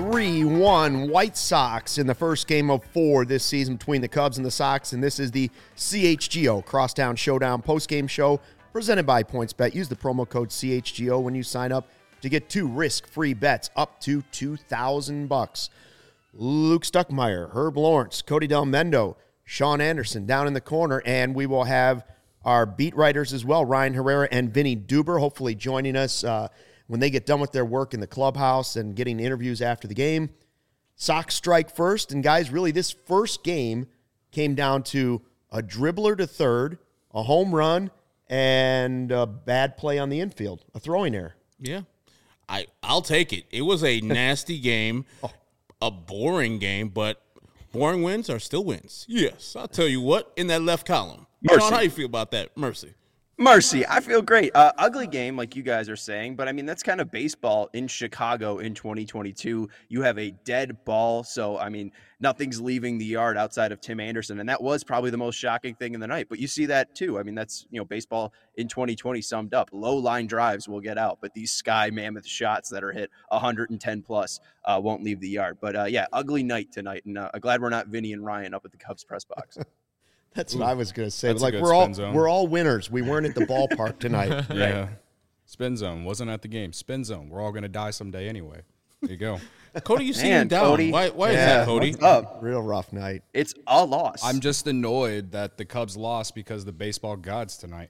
3-1 White Sox in the first game of 4 this season between the Cubs and the Sox, and this is the CHGO Crosstown Showdown postgame show presented by PointsBet. Use the promo code CHGO when you sign up to get 2 risk-free bets up to $2,000. Luke Stuckmeyer, Herb Lawrence, Cody Del Mendo, Sean Anderson down in the corner, and we will have our beat writers as well, Ryan Herrera and Vinny Duber, hopefully joining us when they get done with their work in the clubhouse and getting interviews after the game. Sox strike first, and guys, really this first game came down to a dribbler to third, a home run, and a bad play on the infield, a throwing error. Yeah, I'll take it. It was a nasty game, a boring game, but boring wins are still wins. Yes, I'll tell you what, in that left column. Mercy. Sean, how you feel about that? Mercy, I feel great. Ugly game, like you guys are saying, but I mean, that's kind of baseball in Chicago in 2022. You have a dead ball, so I mean, nothing's leaving the yard outside of Tim Anderson, and that was probably the most shocking thing in the night. But you see that too. I mean, that's, baseball in 2020 summed up. Low line drives will get out, but these sky mammoth shots that are hit 110 plus won't leave the yard. But yeah, ugly night tonight, and I'm glad we're not Vinny and Ryan up at the Cubs press box. What I was going to say. That's like we're all winners. We weren't at the ballpark tonight. Yeah. Right. Spin zone. Wasn't at the game. Spin zone. We're all going to die someday anyway. There you go. Cody, you seem Man, down. Cody. Why is that, Cody? What's up? Real rough night. It's a loss. I'm just annoyed that the Cubs lost because the baseball gods tonight.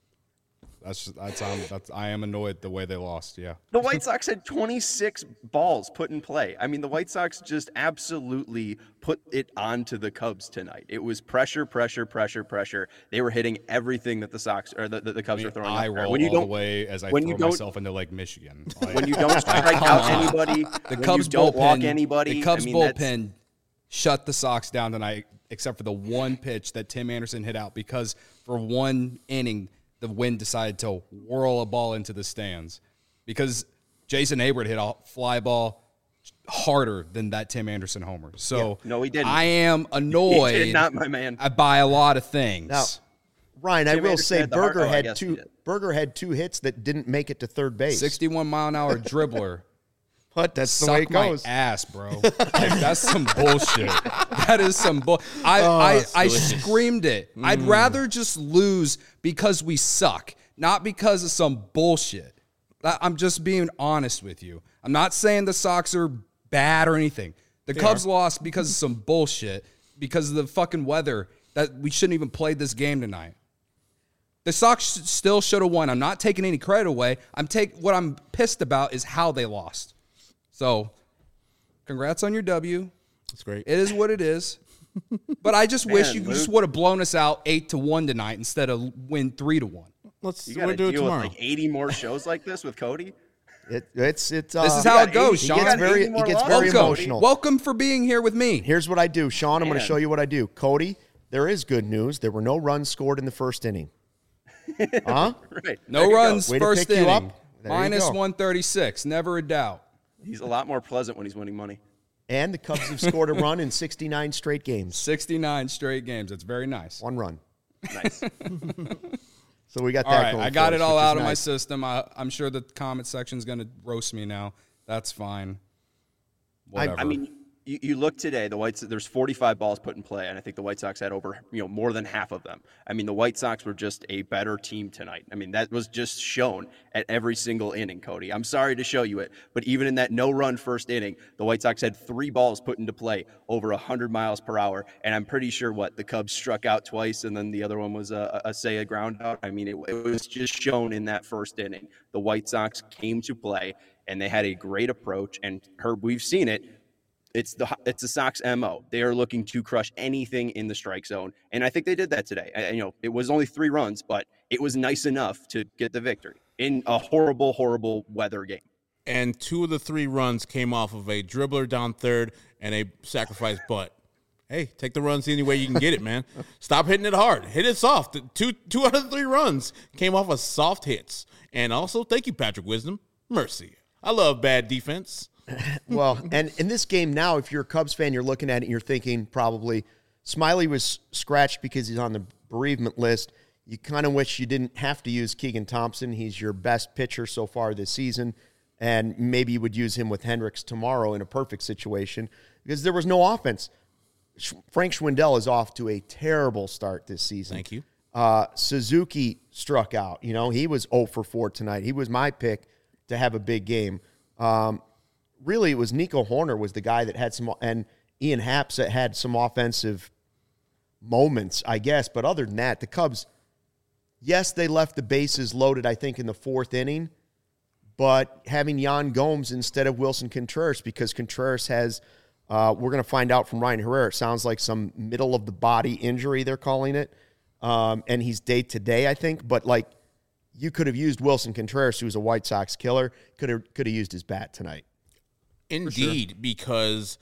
I am annoyed the way they lost. Yeah. The White Sox had 26 balls put in play. I mean, the White Sox just absolutely put it onto the Cubs tonight. It was pressure. They were hitting everything that the Sox or the Cubs were throwing. I roll all the way as I throw myself into Lake Michigan. When you don't strike out anybody, the Cubs don't bullpen, walk anybody. The Cubs bullpen shut the Sox down tonight, except for the one pitch that Tim Anderson hit out because for one inning, the wind decided to whirl a ball into the stands because Jason Hayward hit a fly ball harder than that Tim Anderson homer. So no, he didn't. I am annoyed. He did not, my man. By a lot of things. Now, Ryan, Tim I will Anderson say had the heart- Berger I had guess he two. did. Berger had 2 hits that didn't make it to third base. 61-mile-an-hour dribbler. But that's the way it goes. Suck my ass, bro. Like, that's some bullshit. That is some bull. I screamed it. I'd rather just lose because we suck, not because of some bullshit. I'm just being honest with you. I'm not saying the Sox are bad or anything. The Cubs lost because of some bullshit, because of the fucking weather, that we shouldn't even play this game tonight. The Sox still should have won. I'm not taking any credit away. What I'm pissed about is how they lost. So, congrats on your W. That's great. It is what it is. But I just wish you just would have blown us out 8-1 tonight instead of win 3-1. You got to do it deal with tomorrow. like 80 more shows like this with Cody. This is how it goes, He Sean. gets very emotional. Welcome for being here with me. Here's what I do, Sean. I'm going to Man. show you what I do. Cody, there is good news. There were no runs scored in the first inning. Huh? Right. No runs Way to first pick you inning. up. There you Minus go. 136. Never a doubt. He's a lot more pleasant when he's winning money. And the Cubs have scored a run in 69 straight games. 69 straight games. That's very nice. 1 run. Nice. So we got All that right, going I got for it us, all which is out of my nice. system. I'm sure the comment section's going to roast me now. That's fine. Whatever. I mean, you look today, there's 45 balls put in play, and I think the White Sox had over, more than half of them. I mean, the White Sox were just a better team tonight. I mean, that was just shown at every single inning, Cody. I'm sorry to show you it, but even in that no-run first inning, the White Sox had 3 balls put into play over 100 miles per hour, and I'm pretty sure the Cubs struck out twice, and then the other one was a ground out. I mean, it was just shown in that first inning. The White Sox came to play, and they had a great approach, and Herb, we've seen it. It's the Sox MO. They are looking to crush anything in the strike zone, and I think they did that today. It was only 3 runs, but it was nice enough to get the victory in a horrible, horrible weather game. And 2 of the 3 runs came off of a dribbler down third and a sacrifice bunt. Hey, take the runs any way you can get it, man. Stop hitting it hard. Hit it soft. Two out of the 3 runs came off of soft hits. And also, thank you, Patrick Wisdom. Mercy. I love bad defense. Well, and in this game now, if you're a Cubs fan, you're looking at it and you're thinking probably Smiley was scratched because he's on the bereavement list. You kind of wish you didn't have to use Keegan Thompson. He's your best pitcher so far this season. and maybe you would use him with Hendricks tomorrow in a perfect situation because there was no offense. Frank Schwindel is off to a terrible start this season. Thank you. Suzuki struck out. You know, he was 0 for 4 tonight. He was my pick to have a big game. Really, it was Nico Horner was the guy that had some, and Ian Happ had some offensive moments, I guess. But other than that, the Cubs, yes, they left the bases loaded, I think, in the 4th inning, but having Yan Gomes instead of Wilson Contreras because Contreras has, we're going to find out from Ryan Herrera, it sounds like some middle-of-the-body injury, they're calling it, and he's day-to-day, I think. But, like, you could have used Wilson Contreras, who's a White Sox killer, could have used his bat tonight. Indeed, because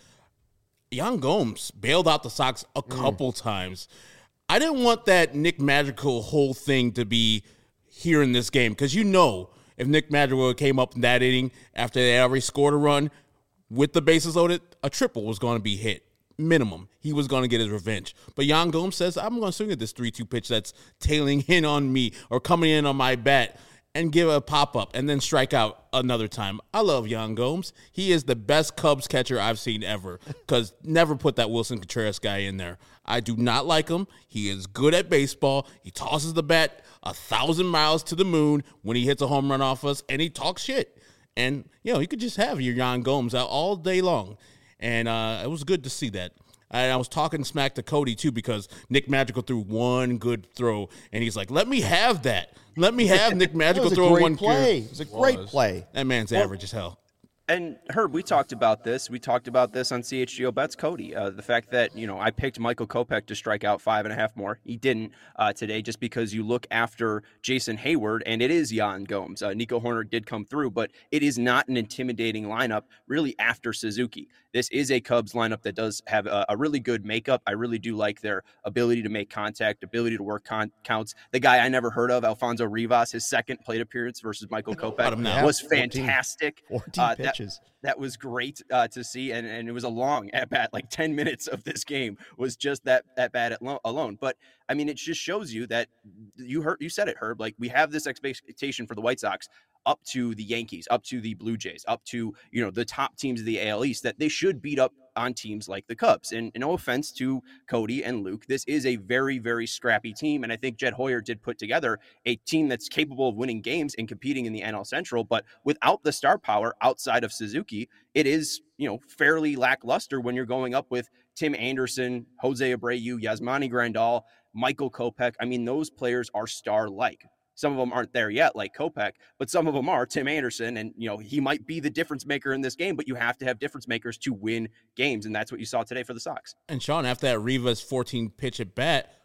Yan Gomes bailed out the Sox a couple times. I didn't want that Nick Madrigal whole thing to be here in this game because if Nick Madrigal came up in that inning after they already scored a run with the bases loaded, a triple was going to be hit. Minimum. He was going to get his revenge. But Yan Gomes says, I'm going to swing at this 3-2 pitch that's tailing in on me or coming in on my bat and give a pop-up and then strike out another time. I love Yan Gomes. He is the best Cubs catcher I've seen ever because never put that Wilson Contreras guy in there. I do not like him. He is good at baseball. He tosses the bat 1,000 miles to the moon when he hits a home run off us, and he talks shit. And, you could just have your Yan Gomes out all day long. And it was good to see that. I was talking smack to Cody, too, because Nick Madrigal threw one good throw, and he's like, let me have that. Let me have Nick Madrigal throw one play. It was a great play. That man's average as hell. And Herb, we talked about this. We talked about this on CHGO Bets, Cody. The fact that, I picked Michael Kopech to strike out 5.5 more. He didn't today just because you look after Jason Hayward, and it is Yan Gomes. Nico Horner did come through, but it is not an intimidating lineup really after Suzuki. This is a Cubs lineup that does have a really good makeup. I really do like their ability to make contact, ability to work counts. The guy I never heard of, Alfonso Rivas, his second plate appearance versus Michael Kopech was fantastic. 14 pitches. That was great to see, and it was a long at-bat, like 10 minutes of this game was just that at-bat alone. But, I mean, it just shows you that you said it, Herb, like we have this expectation for the White Sox up to the Yankees, up to the Blue Jays, up to, the top teams of the AL East, that they should beat up on teams like the Cubs. And no offense to Cody and Luke, this is a very, very scrappy team. And I think Jed Hoyer did put together a team that's capable of winning games and competing in the NL Central. But without the star power outside of Suzuki, it is, fairly lackluster when you're going up with Tim Anderson, Jose Abreu, Yasmani Grandal, Michael Kopech. I mean, those players are star-like. Some of them aren't there yet, like Kopech, but some of them are. Tim Anderson, and he might be the difference maker in this game, but you have to have difference makers to win games, and that's what you saw today for the Sox. And Sean, after that Rivas 14 pitch at bat,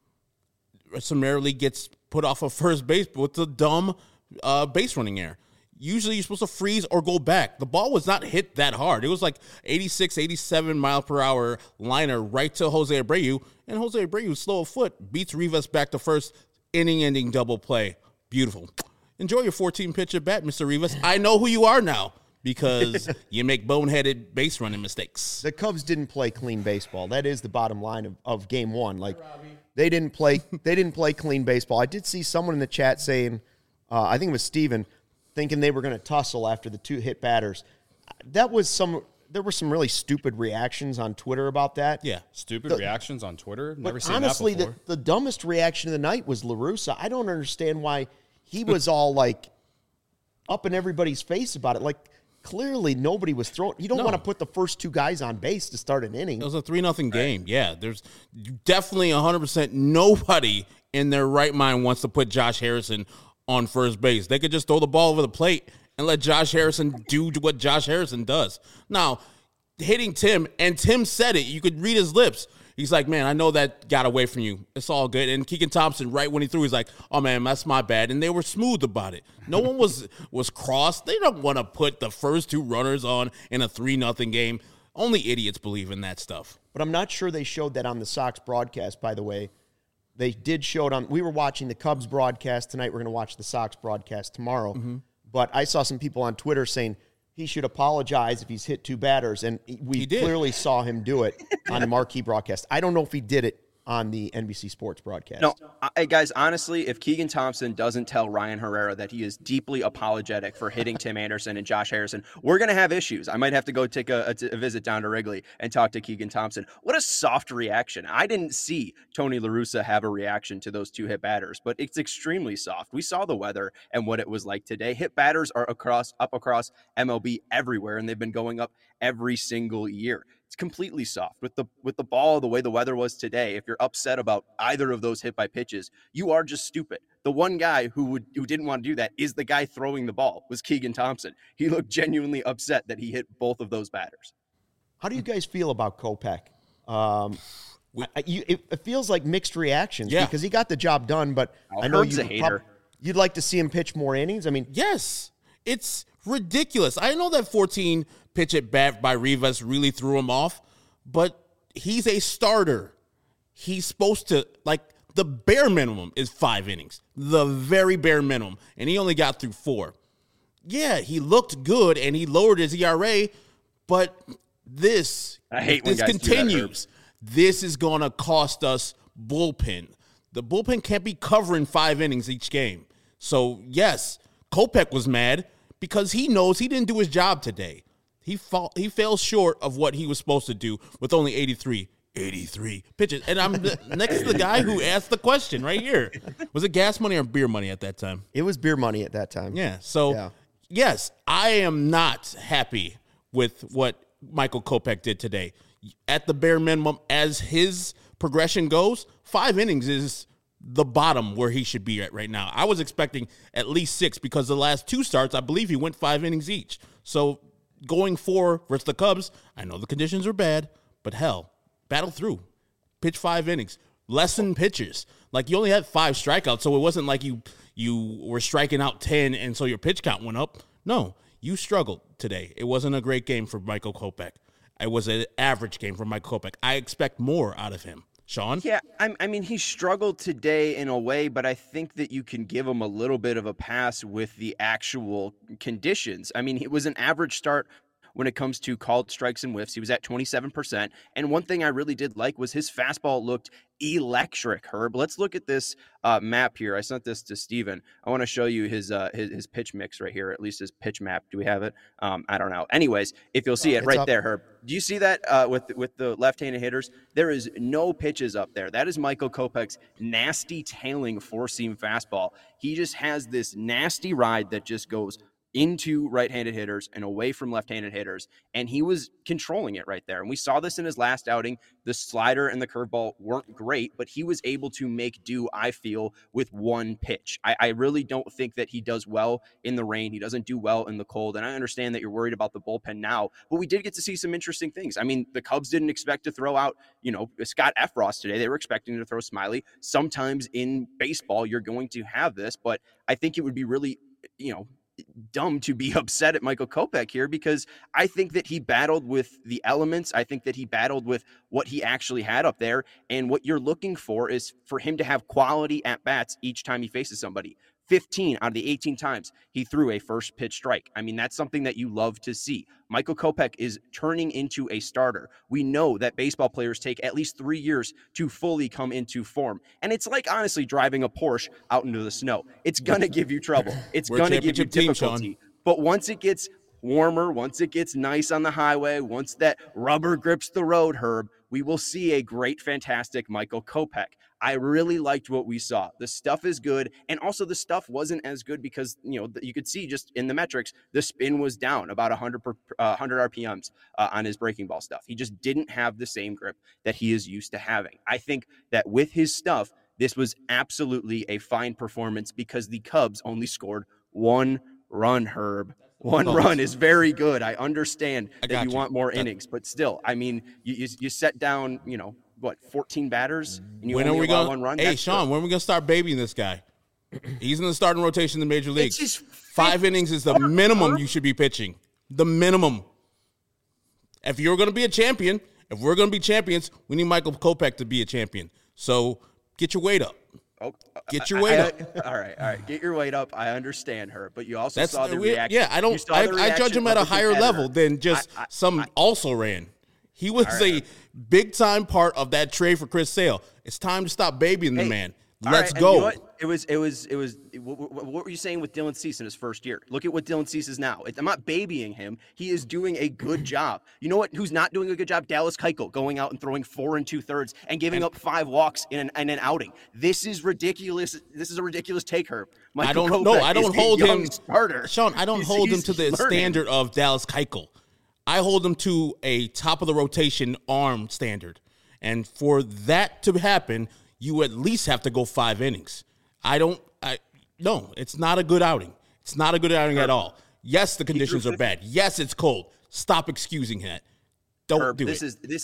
summarily gets put off of first base with the dumb base running error. Usually you're supposed to freeze or go back. The ball was not hit that hard. It was like 86, 87 mile per hour liner right to Jose Abreu, and Jose Abreu, slow of foot, beats Rivas back to first. Inning-ending double play. Beautiful. Enjoy your 14 pitch at bat, Mr. Rivas. I know who you are now because you make boneheaded base running mistakes. The Cubs didn't play clean baseball. That is the bottom line of game one. Like they didn't play clean baseball. I did see someone in the chat saying, I think it was Steven, thinking they were going to tussle after the 2 hit batters. There were some really stupid reactions on Twitter about that. Yeah. Stupid reactions on Twitter? Never seen honestly, that before. the dumbest reaction of the night was La Russa. I don't understand why he was all like up in everybody's face about it. Like clearly nobody was throwing. You don't want to put the first 2 guys on base to start an inning. It was a 3-0 game. Yeah. There's definitely 100% nobody in their right mind wants to put Josh Harrison on first base. They could just throw the ball over the plate and let Josh Harrison do what Josh Harrison does. Now, hitting Tim, and Tim said it. You could read his lips. He's like, man, I know that got away from you. It's all good. And Keegan Thompson, right when he threw, he's like, oh, man, that's my bad. And they were smooth about it. No one was crossed. They don't want to put the first 2 runners on in a 3-0 game. Only idiots believe in that stuff. But I'm not sure they showed that on the Sox broadcast, by the way. They did show it on – we were watching the Cubs broadcast tonight. We're going to watch the Sox broadcast tomorrow. Mm-hmm. But I saw some people on Twitter saying he should apologize if he's hit 2 batters, and we clearly saw him do it on the marquee broadcast. I don't know if he did it on the NBC Sports broadcast. No, guys, honestly, if Keegan Thompson doesn't tell Ryan Herrera that he is deeply apologetic for hitting Tim Anderson and Josh Harrison, we're going to have issues. I might have to go take a visit down to Wrigley and talk to Keegan Thompson. What a soft reaction. I didn't see Tony La Russa have a reaction to those two hit batters, but it's extremely soft. We saw the weather and what it was like today. Hit batters are up across MLB everywhere, and they've been going up every single year. It's completely soft with the ball, the way the weather was today. If you're upset about either of those hit by pitches, you are just stupid. The one guy who didn't want to do that is the guy throwing the ball, was Keegan Thompson. He looked genuinely upset that he hit both of those batters. How do you guys feel about Kopech? It feels like mixed reactions because he got the job done, but I know you'd like to see him pitch more innings. I mean, yes, it's ridiculous. I know that 14 pitch at bat by Rivas really threw him off, but he's a starter. He's supposed to, the bare minimum is 5 innings, the very bare minimum, and he only got through 4. Yeah, he looked good, and he lowered his ERA, but this continues. This is going to cost us bullpen. The bullpen can't be covering 5 innings each game. So, yes, Kopech was mad because he knows he didn't do his job today. He fell short of what he was supposed to do with only 83 pitches. And I'm next to the guy who asked the question right here. Was it gas money or beer money at that time? It was beer money at that time. Yeah. So, yes, I am not happy with what Michael Kopech did today. At the bare minimum, as his progression goes, 5 innings is the bottom where he should be at right now. I was expecting at least 6 because the last 2 starts, I believe he went 5 innings each. So going 4 versus the Cubs, I know the conditions are bad, but hell, battle through. Pitch 5 innings. Lessen pitches. You only had 5 strikeouts, so it wasn't like you were striking out 10 and so your pitch count went up. No, you struggled today. It wasn't a great game for Michael Kopech. It was an average game for Michael Kopech. I expect more out of him. Sean? Yeah, I mean, he struggled today in a way, but I think that you can give him a little bit of a pass with the actual conditions. I mean, it was an average start when it comes to called strikes and whiffs. He was at 27%. And one thing I really did like was his fastball looked electric, Herb. Let's look at this map here. I sent this to Steven. I want to show you his pitch mix right here, at least his pitch map. Do we have it? I don't know. Anyways, if you'll see it right there, Herb. Do you see that with the left-handed hitters? There is no pitches up there. That is Michael Kopech's nasty tailing four-seam fastball. He just has this nasty ride that just goes into right-handed hitters and away from left-handed hitters, and he was controlling it right there. And we saw this in his last outing. The slider and the curveball weren't great, but he was able to make do, I feel, with one pitch. I really don't think that he does well in the rain. He doesn't do well in the cold, and I understand that you're worried about the bullpen now, but we did get to see some interesting things. I mean, the Cubs didn't expect to throw out, Scott Effross today. They were expecting to throw Smiley. Sometimes in baseball, you're going to have this, but I think it would be really, dumb to be upset at Michael Kopech here, because I think that he battled with the elements. I think that he battled with what he actually had up there. And what you're looking for is for him to have quality at bats each time he faces somebody. 15 out of the 18 times he threw a first pitch strike. I mean, that's something that you love to see. Michael Kopech is turning into a starter. We know that baseball players take at least 3 years to fully come into form. And it's like, honestly, driving a Porsche out into the snow. It's going to give you trouble. It's going to give you difficulty. But once it gets warmer, once it gets nice on the highway, once that rubber grips the road, Herb, we will see a great, fantastic Michael Kopech. I really liked what we saw. The stuff is good, and also the stuff wasn't as good because, you could see just in the metrics, the spin was down about 100 RPMs on his breaking ball stuff. He just didn't have the same grip that he is used to having. I think that with his stuff, this was absolutely a fine performance because the Cubs only scored 1 run, Herb. One run is very good. I understand that you want more innings, but still, I mean, you set down, 14 batters, and you only allow 1 run? Hey, Sean, when are we going to start babying this guy? He's in the starting rotation in the major leagues. 5 innings is the minimum you should be pitching. The minimum. If you're going to be a champion, if we're going to be champions, we need Michael Kopech to be a champion. So get your weight up. Get your weight up. All right. Get your weight up. I understand her, but you also saw the reaction. Yeah, I judge him at a higher level than just some also ran. He was a big-time part of that trade for Chris Sale. It's time to stop babying the man. Let's go. You know what? It was. What were you saying with Dylan Cease in his first year? Look at what Dylan Cease is now. I'm not babying him. He is doing a good job. You know what? Who's not doing a good job? Dallas Keuchel going out and throwing 4 2/3 and giving up 5 walks in an outing. This is ridiculous. This is a ridiculous take, Herb. I don't hold him. Starter. Sean, I don't hold him to the standard of Dallas Keuchel. I hold him to a top of the rotation arm standard, and for that to happen, you at least have to go 5 innings. No, it's not a good outing. It's not a good outing at all. Yes, the conditions are bad. Yes, it's cold. Stop excusing that. Don't do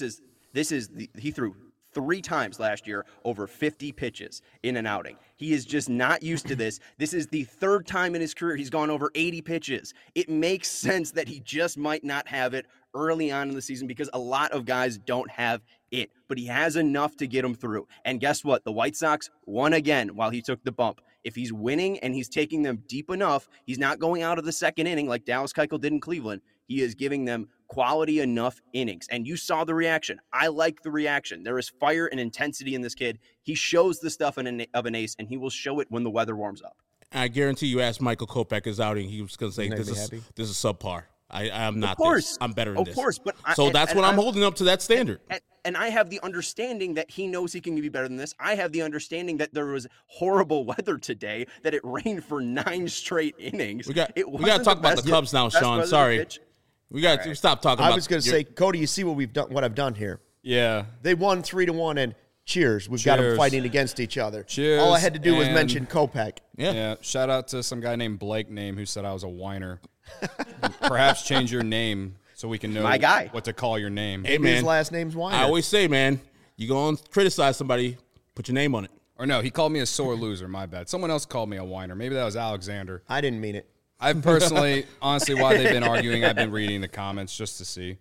it. He threw 3 times last year over 50 pitches in an outing. He is just not used to this. This is the 3rd time in his career he's gone over 80 pitches. It makes sense that he just might not have it early on in the season because a lot of guys don't have it, but he has enough to get him through. And guess what? The White Sox won again while he took the bump. If he's winning and he's taking them deep enough, he's not going out of the 2nd inning like Dallas Keuchel did in Cleveland. He is giving them quality enough innings. And you saw the reaction. I like the reaction. There is fire and intensity in this kid. He shows the stuff of an ace, and he will show it when the weather warms up. I guarantee you asked Michael Kopech his outing, he was going to say, this is subpar. I'm not this. I'm better than this. Of course. But that's what I'm holding up to that standard. And I have the understanding that he knows he can be better than this. I have the understanding that there was horrible weather today, that it rained for 9 straight innings. We got to talk about the Cubs now, Sean. Sorry. We got to stop talking about I was going to say, Cody, you see what I've done here? Yeah. They won 3-1, and cheers. We've got them fighting against each other. Cheers. All I had to do was mention Kopech. Yeah. Shout out to some guy named Blake who said I was a whiner. Perhaps change your name so we can know what to call your name. Hey, man. His last name's Weiner. I always say, man, you go and criticize somebody, put your name on it. Or no, he called me a sore loser. My bad. Someone else called me a whiner. Maybe that was Alexander. I didn't mean it. I've personally, honestly, while they've been arguing, I've been reading the comments just to see.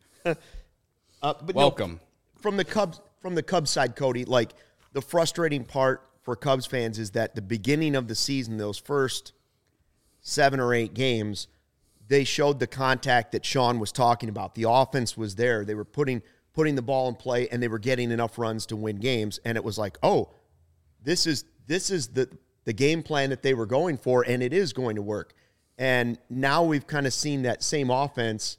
But Welcome. No, from the Cubs side, Cody, like the frustrating part for Cubs fans is that the beginning of the season, those first 7 or 8 games, they showed the contact that Sean was talking about. The offense was there. They were putting the ball in play, and they were getting enough runs to win games. And it was like, oh, this is the game plan that they were going for, and it is going to work. And now we've kind of seen that same offense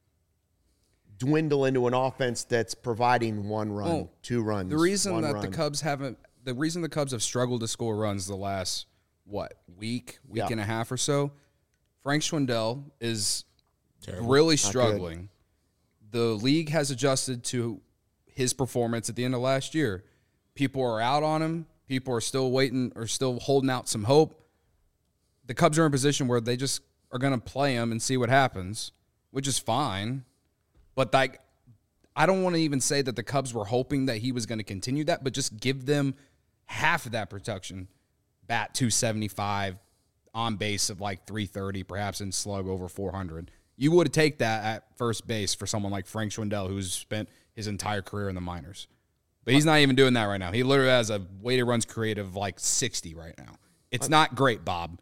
dwindle into an offense that's providing 1 run, 2 runs. The reason that the Cubs have struggled to score runs the last week and a half or so, Frank Schwindel is really struggling. The league has adjusted to his performance at the end of last year. People are out on him. People are still waiting or still holding out some hope. The Cubs are in a position where they just are going to play him and see what happens, which is fine. But I don't want to even say that the Cubs were hoping that he was going to continue that, but just give them half of that production. Bat 275, on base of like 330, perhaps, and slug over 400. You would take that at first base for someone like Frank Schwindel, who's spent his entire career in the minors. But he's not even doing that right now. He literally has a weighted runs created of like 60 right now. It's not great, Bob.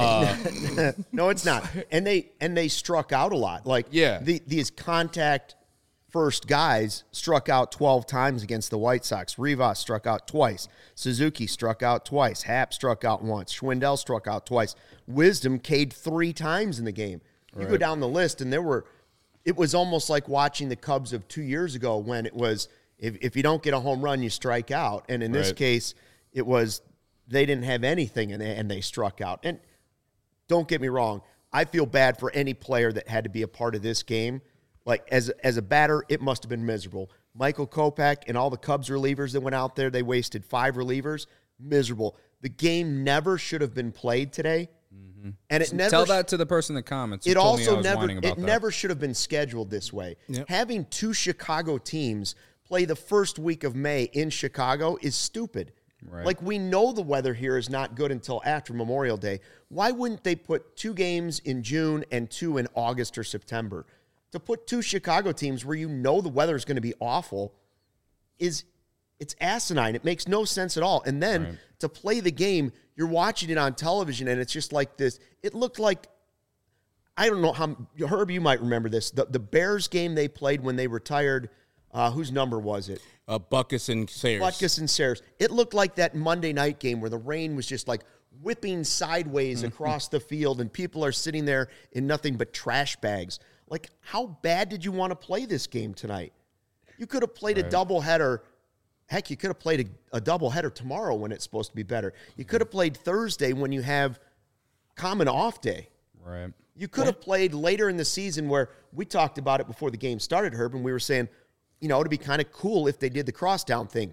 No, it's not. And they struck out a lot. Like, these contact first guys struck out 12 times against the White Sox. Rivas struck out twice. Suzuki struck out twice. Happ struck out once. Schwindel struck out twice. Wisdom K'd 3 times in the game. You go down the list, and it was almost like watching the Cubs of 2 years ago when it was, if you don't get a home run, you strike out. And in this case, it was they didn't have anything, and they struck out. And don't get me wrong, I feel bad for any player that had to be a part of this game. Like, as a batter, it must have been miserable. Michael Kopech and all the Cubs relievers that went out there, they wasted 5 relievers. Miserable. The game never should have been played today. Mm-hmm. And it never tell that to the person in the comments. It also never should have been scheduled this way. Yep. Having 2 Chicago teams play the first week of May in Chicago is stupid. Right. Like, we know the weather here is not good until after Memorial Day. Why wouldn't they put 2 games in June and 2 in August or September? To put 2 Chicago teams where you know the weather is going to be awful it's asinine. It makes no sense at all. And then to play the game, you're watching it on television, and it's just like this. It looked like, I don't know how, Herb, you might remember this. The Bears game they played when they retired Whose number was it? Butkus and Sayers. Butkus and Sayers. It looked like that Monday night game where the rain was just like whipping sideways across the field and people are sitting there in nothing but trash bags. Like, how bad did you want to play this game tonight? You could have played a doubleheader. Heck, you could have played a doubleheader tomorrow when it's supposed to be better. You could have played Thursday when you have common off day. Right. You could have played later in the season where we talked about it before the game started, Herb, and we were saying, you know, it'd be kind of cool if they did the crosstown thing.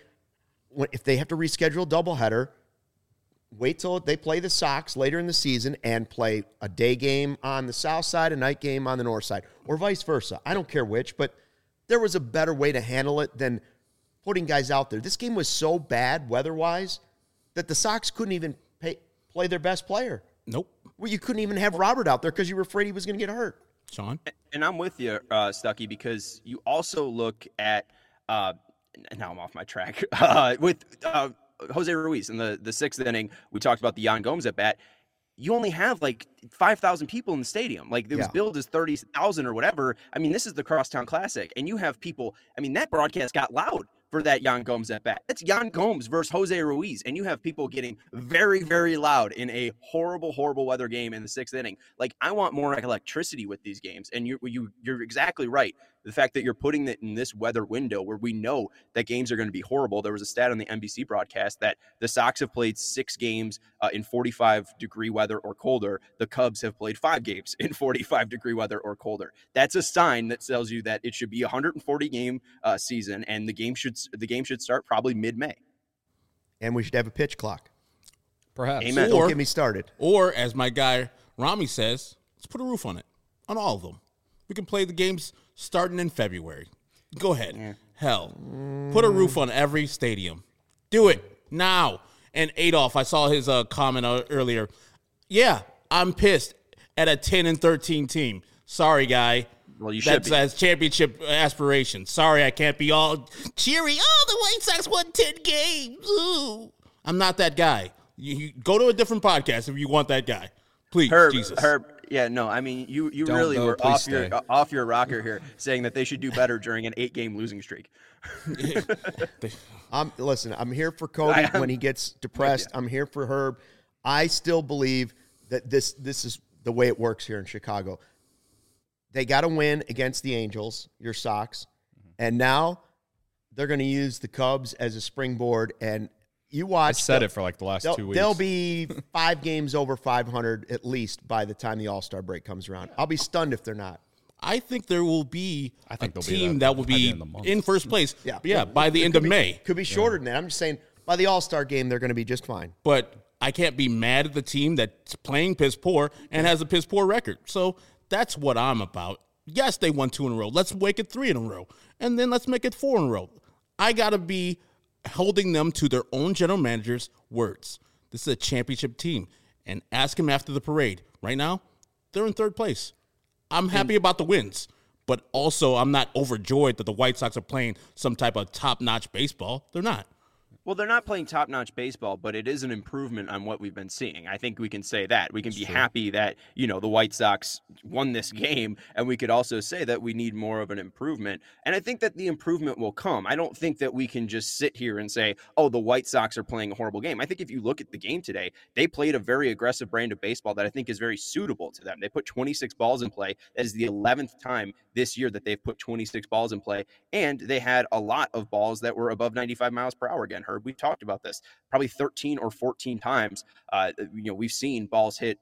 If they have to reschedule a doubleheader, wait till they play the Sox later in the season and play a day game on the south side, a night game on the north side, or vice versa. I don't care which, but there was a better way to handle it than putting guys out there. This game was so bad weather-wise that the Sox couldn't even play their best player. Nope. Well, you couldn't even have Robert out there because you were afraid he was going to get hurt. Sean? And I'm with you, Stuckey, because you also look at now I'm off my track with Jose Ruiz in the sixth inning. We talked about the Yan Gomes at bat. You only have like 5,000 people in the stadium. Like, it was billed as 30,000 or whatever. I mean, this is the Crosstown Classic, and you have people. I mean, that broadcast got loud for that Yan Gomes at bat. That's Yan Gomes versus Jose Ruiz, and you have people getting very, very loud in a horrible, horrible weather game in the sixth inning. Like, I want more electricity with these games, and you're exactly right. The fact that you're putting it in this weather window where we know that games are going to be horrible. There was a stat on the NBC broadcast that the Sox have played 6 games in 45-degree weather or colder. The Cubs have played 5 games in 45-degree weather or colder. That's a sign that tells you that it should be a 140-game season, and the game should start probably mid-May. And we should have a pitch clock. Perhaps. Amen. Don't get me started. Or, as my guy Rami says, let's put a roof on it, on all of them. We can play the games starting in February. Go ahead. Yeah. Hell, put a roof on every stadium. Do it now. And Adolph, I saw his comment earlier. Yeah, I'm pissed at a 10-13 team. Sorry, guy. Well, you should be. That's championship aspirations. Sorry, I can't be all cheery. Oh, the White Sox won 10 games. Ooh. I'm not that guy. You go to a different podcast if you want that guy. Please, Jesus. Herb, yeah, no, I mean, you really were off your rocker here, saying that they should do better during an 8-game losing streak. Listen, I'm here for Cody when he gets depressed. I'm here for Herb. I still believe that this is the way it works here in Chicago. They got to win against the Angels, your Sox, and now they're going to use the Cubs as a springboard. And you watch. I said it for like the last 2 weeks. They'll be 5 games over 500 at least by the time the All-Star break comes around. I'll be stunned if they're not. I think there will be a team that that will be in first place. By the end of May. Could be shorter than that. I'm just saying by the All-Star game they're going to be just fine. But I can't be mad at the team that's playing piss poor and has a piss poor record. So that's what I'm about. Yes, they won 2 in a row. Let's make it 3 in a row. And then let's make it 4 in a row. I got to be holding them to their own general manager's words. This is a championship team. And ask them after the parade. Right now, they're in 3rd place. I'm happy about the wins. But also, I'm not overjoyed that the White Sox are playing some type of top-notch baseball. They're not. Well, they're not playing top-notch baseball, but it is an improvement on what we've been seeing. I think we can say that. We can be happy that, the White Sox won this game, and we could also say that we need more of an improvement. And I think that the improvement will come. I don't think that we can just sit here and say, oh, the White Sox are playing a horrible game. I think if you look at the game today, they played a very aggressive brand of baseball that I think is very suitable to them. They put 26 balls in play. That is the 11th time this year that they've put 26 balls in play, and they had a lot of balls that were above 95 miles per hour again, Herb. We talked about this probably 13 or 14 times. We've seen balls hit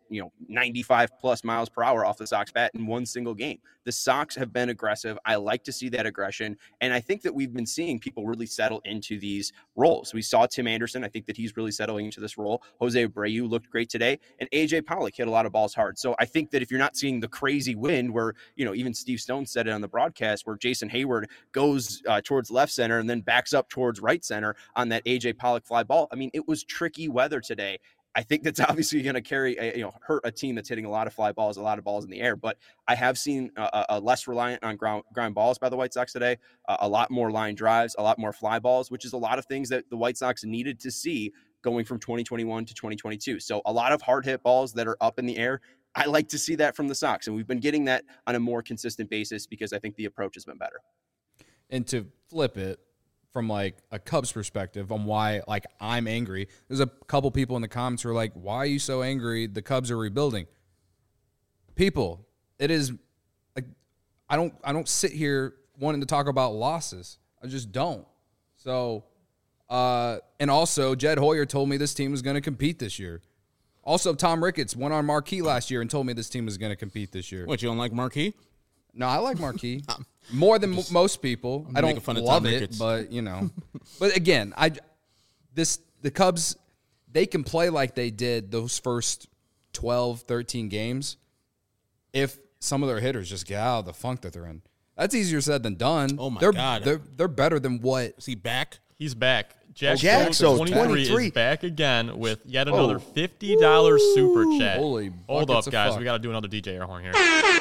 95 plus miles per hour off the Sox bat in one single game. The Sox have been aggressive. I like to see that aggression, and I think that we've been seeing people really settle into these roles. We saw Tim Anderson. I think that he's really settling into this role. Jose Abreu looked great today, and AJ Pollock hit a lot of balls hard. So I think that if you're not seeing the crazy wind where even Steve Stone said it on the broadcast, where Jason Hayward goes towards left center and then backs up towards right center on that AJ Pollock fly ball. I mean, it was tricky weather today. I think that's obviously going to hurt a team that's hitting a lot of fly balls, a lot of balls in the air. But I have seen a less reliant on ground balls by the White Sox today, a lot more line drives, a lot more fly balls, which is a lot of things that the White Sox needed to see going from 2021 to 2022. So a lot of hard hit balls that are up in the air. I like to see that from the Sox, and we've been getting that on a more consistent basis because I think the approach has been better. And to flip it from like a Cubs perspective on why like I'm angry, there's a couple people in the comments who are like, why are you so angry? The Cubs are rebuilding. People, it is like I don't sit here wanting to talk about losses. I just don't. So and also Jed Hoyer told me this team was going to compete this year. Also, Tom Ricketts went on Marquee last year and told me this team was going to compete this year. What, you don't like Marquee? No, I like Marquee more than most people. I don't love it, but you know. But again, the Cubs, they can play like they did those first 12, 13 games if some of their hitters just get out of the funk that they're in. That's easier said than done. Oh my God, they're better than what? Is he back? He's back. Jack Jaxo, 23 is back again with yet another $50 super chat. Holy Hold up, guys. fuck. We got to do another DJ air horn here.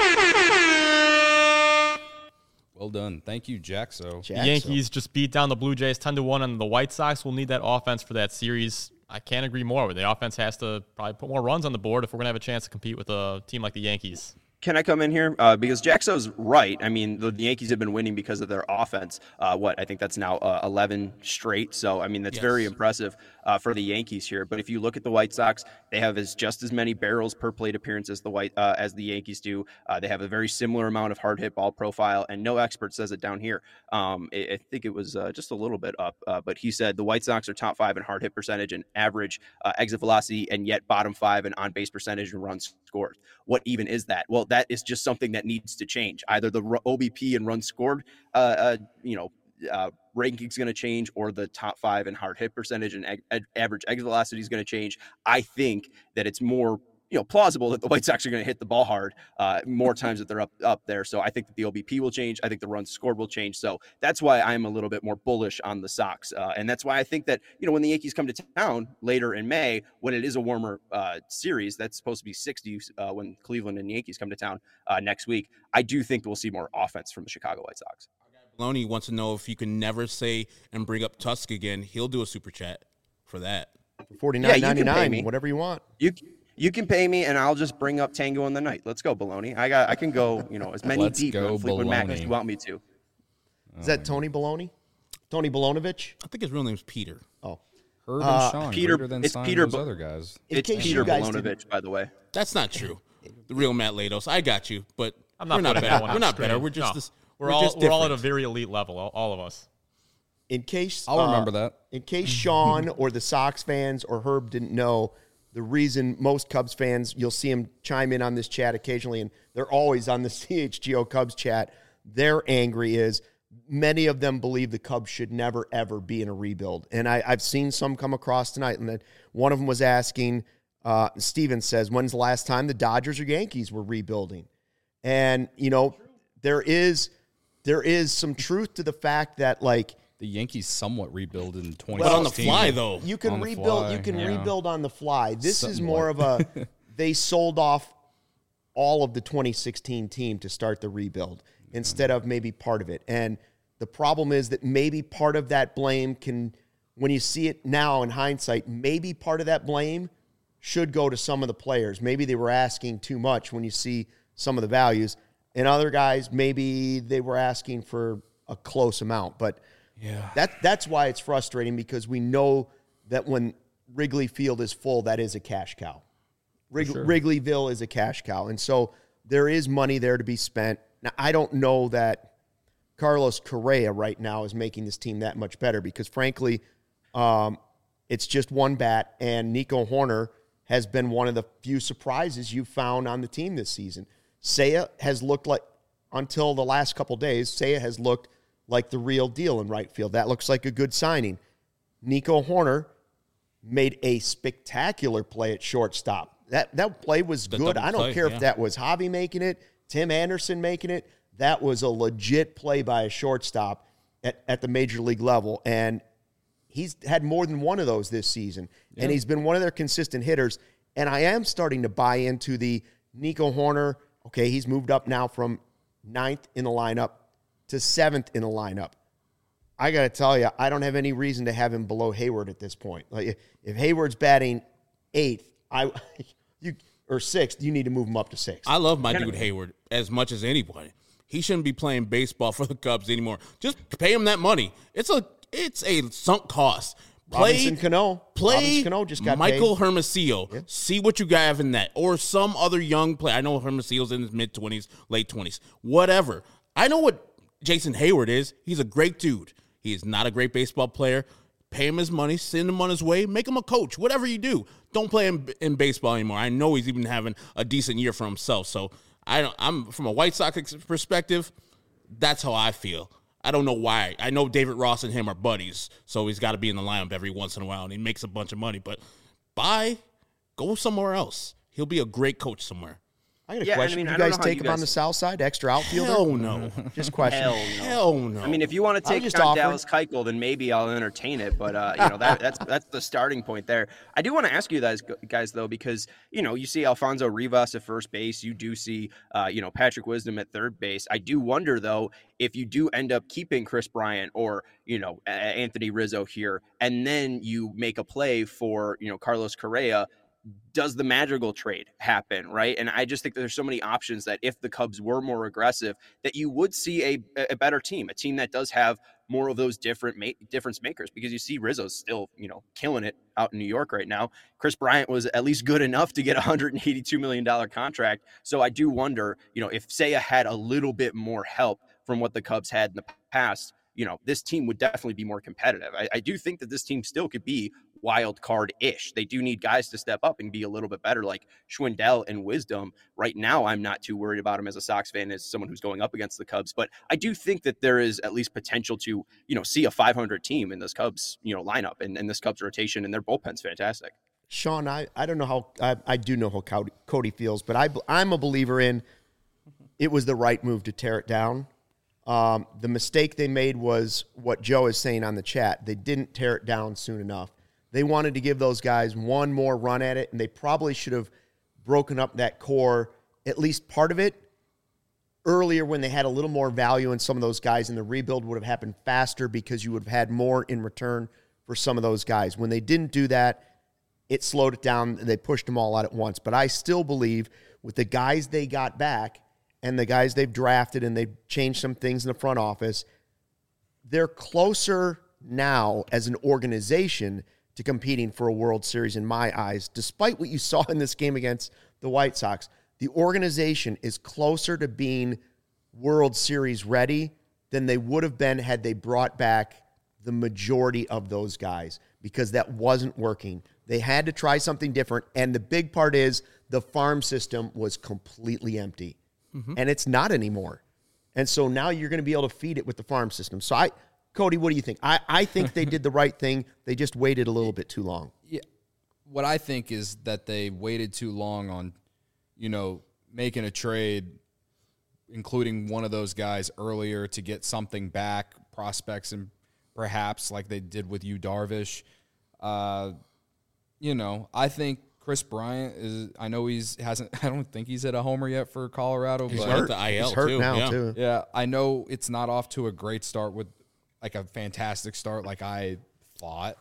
Well done. Thank you, Jaxo. The Yankees just beat down the Blue Jays 10-1, and the White Sox will need that offense for that series. I can't agree more. The offense has to probably put more runs on the board if we're going to have a chance to compete with a team like the Yankees. Can I come in here? Because Jaxo's right. I mean, the Yankees have been winning because of their offense. I think that's now 11 straight. So, I mean, that's very impressive for the Yankees here. But if you look at the White Sox, they have just as many barrels per plate appearance as the Yankees do. They have a very similar amount of hard hit ball profile, and no expert says it down here. I think it was just a little bit up, but he said the White Sox are top 5 in hard hit percentage and average exit velocity, and yet bottom 5 in on base percentage and runs scored. What even is that? Well, that is just something that needs to change. Either the OBP and runs scored, ranking is going to change, or the top 5 in hard hit percentage and average exit velocity is going to change. I think that it's more plausible that the White Sox are going to hit the ball hard more times that they're up there. So I think that the OBP will change. I think the runs scored will change. So that's why I'm a little bit more bullish on the Sox. And that's why I think that, when the Yankees come to town later in May, when it is a warmer series, that's supposed to be 60 when Cleveland and Yankees come to town next week. I do think we'll see more offense from the Chicago White Sox. Maloney wants to know if you can never say and bring up Tusk again. He'll do a super chat for that. $49.99, whatever you want. You can pay me, and I'll just bring up Tango in the Night. Let's go, Baloney. I can go, as many deep on Fleetwood Mac as you want me to. Is that Tony Baloney? Tony Balonovich? I think his real name's Peter. Oh. Herb and Sean, Peter, greater than it's sign Peter, those other guys. It's Peter Balonovich, by the way. That's not true. The real Matt Latos. I got you, but I'm not we're not putting better. that one We're on not screen. better. We're No. just We're all at a different. very elite level, all of us. In case I'll remember that. In case Sean or the Sox fans or Herb didn't know, the reason most Cubs fans, you'll see them chime in on this chat occasionally, and they're always on the CHGO Cubs chat, they're angry is many of them believe the Cubs should never, ever be in a rebuild. And I've seen some come across tonight, and that one of them was asking, Steven says, when's the last time the Dodgers or Yankees were rebuilding? And, there is some truth to the fact that, like, The Yankees somewhat rebuild in 2016. But on the fly, though. you can On the rebuild. fly, You can yeah. rebuild on the fly. This is Somewhat. more of a. They sold off all of the 2016 team to start the rebuild instead of maybe part of it. And the problem is that maybe part of that blame can, when you see it now in hindsight, maybe part of that blame should go to some of the players. Maybe they were asking too much when you see some of the values, and other guys maybe they were asking for a close amount, but. Yeah. That's why it's frustrating, because we know that when Wrigley Field is full, that is a cash cow. Wrigleyville is a cash cow. And so there is money there to be spent. Now, I don't know that Carlos Correa right now is making this team that much better, because, frankly, it's just one bat, and Nico Horner has been one of the few surprises you've found on the team this season. Seiya has looked like, until the last couple days, Seiya has looked like the real deal in right field. That looks like a good signing. Nico Horner made a spectacular play at shortstop. That play was good. I don't care if that was Javi making it, Tim Anderson making it. That was a legit play by a shortstop at the major league level. And he's had more than one of those this season. Yeah. And he's been one of their consistent hitters. And I am starting to buy into the Nico Horner. Okay, he's moved up now from 9th in the lineup to 7th in the lineup. I got to tell you, I don't have any reason to have him below Hayward at this point. Like, if Hayward's batting 8th, or 6th, you need to move him up to 6th. I love my dude Hayward as much as anybody. he shouldn't be playing baseball for the Cubs anymore. Just pay him that money. It's a sunk cost. Robinson Cano Play just got Michael paid. Hermosillo. Yeah. See what you have in that. Or some other young player. I know Hermosillo's in his mid-20s, late 20s. Whatever. I know what Jason Hayward is. He's a great dude. He is not a great baseball player. Pay him his money. Send him on his way. Make him a coach. Whatever you do. Don't play him in baseball anymore. I know he's even having a decent year for himself. So I'm from a White Sox perspective, that's how I feel. I don't know why. I know David Ross and him are buddies, so he's got to be in the lineup every once in a while, and he makes a bunch of money. But go somewhere else. He'll be a great coach somewhere. I got a question. Did you guys take him on the south side, extra outfielder? Hell no. Just question. Hell no. I mean, if you want to take on Dallas Keuchel, then maybe I'll entertain it. But that's the starting point there. I do want to ask you guys though, because you see Alfonso Rivas at first base, you do see Patrick Wisdom at third base. I do wonder though if you do end up keeping Chris Bryant or Anthony Rizzo here, and then you make a play for Carlos Correa. Does the Madrigal trade happen, right? And I just think that there's so many options that if the Cubs were more aggressive, that you would see a better team, a team that does have more of those difference makers, because you see Rizzo's still, killing it out in New York right now. Chris Bryant was at least good enough to get a $182 million contract. So I do wonder, if Seiya had a little bit more help from what the Cubs had in the past, this team would definitely be more competitive. I do think that this team still could be wild card-ish. They do need guys to step up and be a little bit better, like Schwindel and Wisdom. Right now, I'm not too worried about him as a Sox fan, as someone who's going up against the Cubs. But I do think that there is at least potential to, see a 500 team in this Cubs, lineup and this Cubs rotation, and their bullpen's fantastic. Sean, I don't know how I do know how Cody feels, but I'm a believer in it was the right move to tear it down. The mistake they made was what Joe is saying on the chat. They didn't tear it down soon enough. They wanted to give those guys one more run at it, and they probably should have broken up that core, at least part of it, earlier when they had a little more value in some of those guys, and the rebuild would have happened faster because you would have had more in return for some of those guys. When they didn't do that, it slowed it down. They pushed them all out at once. But I still believe with the guys they got back and the guys they've drafted, and they've changed some things in the front office, they're closer now as an organization to competing for a World Series in my eyes. Despite what you saw in this game against the White Sox, the organization is closer to being World Series ready than they would have been had they brought back the majority of those guys, because that wasn't working. They had to try something different, and the big part is the farm system was completely empty, and it's not anymore. And so now you're going to be able to feed it with the farm system. So Cody, what do you think? I think they did the right thing. They just waited a little bit too long. Yeah. What I think is that they waited too long on, making a trade, including one of those guys earlier to get something back, prospects, and perhaps like they did with Yu Darvish. I think Chris Bryant is. I know I don't think he's hit a homer yet for Colorado. He's but hurt. The IL He's hurt too. now yeah. too. Yeah, I know it's not off to a great start with like a fantastic start like I thought.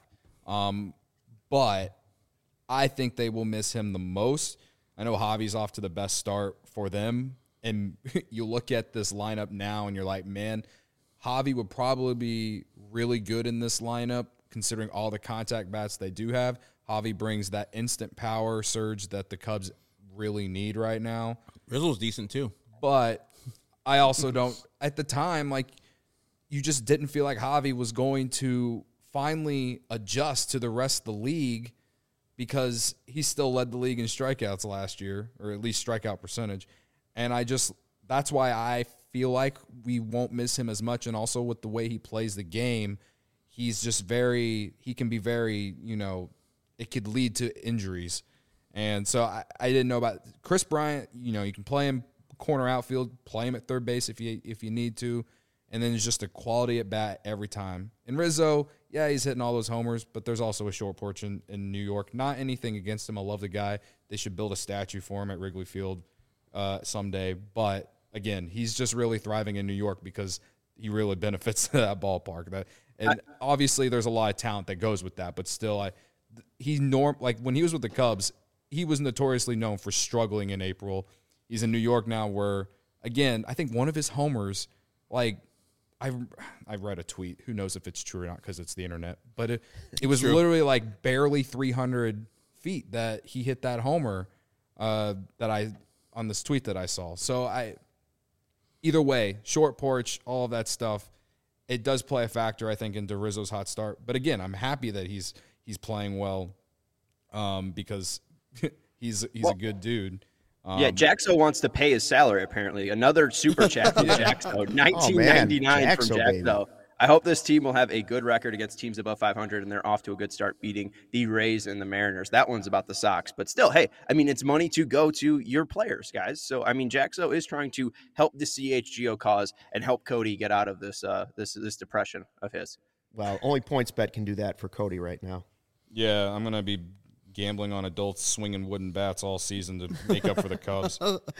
But I think they will miss him the most. I know Javi's off to the best start for them. And you look at this lineup now and you're like, man, Javi would probably be really good in this lineup considering all the contact bats they do have. Javi brings that instant power surge that the Cubs really need right now. Rizzo's decent too. But I also don't, at the time, you just didn't feel like Javi was going to finally adjust to the rest of the league, because he still led the league in strikeouts last year, or at least strikeout percentage. And that's why I feel like we won't miss him as much. And also with the way he plays the game, he's just he can be very, it could lead to injuries. And so I didn't know about Chris Bryant. You can play him corner outfield, play him at third base if you need to. And then it's just a quality at bat every time. And Rizzo, yeah, he's hitting all those homers, but there's also a short porch in New York. Not anything against him. I love the guy. They should build a statue for him at Wrigley Field someday. But again, he's just really thriving in New York because he really benefits that ballpark. Obviously, there's a lot of talent that goes with that. But still, when he was with the Cubs, he was notoriously known for struggling in April. He's in New York now, where again, I think one of his homers, like, I read a tweet. Who knows if it's true or not because it's the internet. But it was literally like barely 300 feet that he hit that homer on this tweet that I saw. So either way, short porch, all of that stuff, it does play a factor, I think, into Rizzo's hot start. But again, I'm happy that he's playing well because he's a good dude. Jaxo wants to pay his salary, apparently. Another super chat from Jaxo, $19.99 from Jaxo. I hope this team will have a good record against teams above 500, and they're off to a good start beating the Rays and the Mariners. That one's about the Sox. But still, hey, I mean, it's money to go to your players, guys. So, I mean, Jaxo is trying to help the CHGO cause and help Cody get out of this this depression of his. Well, only PointsBet can do that for Cody right now. Yeah, I'm going to be gambling on adults swinging wooden bats all season to make up for the Cubs.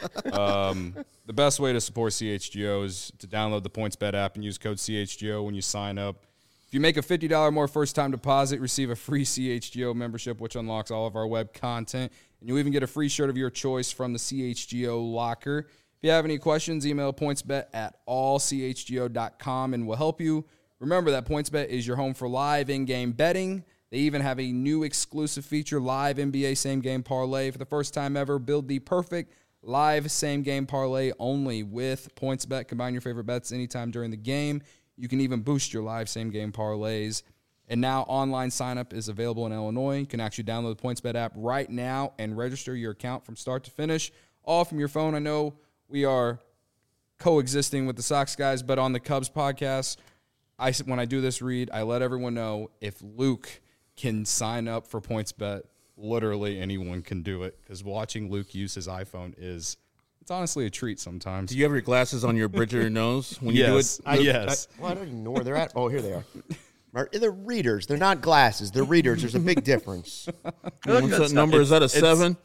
The best way to support CHGO is to download the PointsBet app and use code CHGO when you sign up. If you make a $50 more first-time deposit, receive a free CHGO membership, which unlocks all of our web content. And you'll even get a free shirt of your choice from the CHGO locker. If you have any questions, email pointsbet@allchgo.com and we'll help you. Remember that PointsBet is your home for live in-game betting. They even have a new exclusive feature, Live NBA Same Game Parlay. For the first time ever, build the perfect live same game parlay only with PointsBet. Combine your favorite bets anytime during the game. You can even boost your live same game parlays. And now online sign-up is available in Illinois. You can actually download the PointsBet app right now and register your account from start to finish, all from your phone. I know we are coexisting with the Sox guys, but on the Cubs podcast, when I do this read, I let everyone know if Luke can sign up for PointsBet, literally anyone can do it, because watching Luke use his iPhone it's honestly a treat sometimes. Do you have your glasses on your bridge of your nose when you do it? Yes. I don't even know where they're at. Oh, here they are. They're readers. They're not glasses. They're readers. There's a big difference. What's that number? Is that a 7?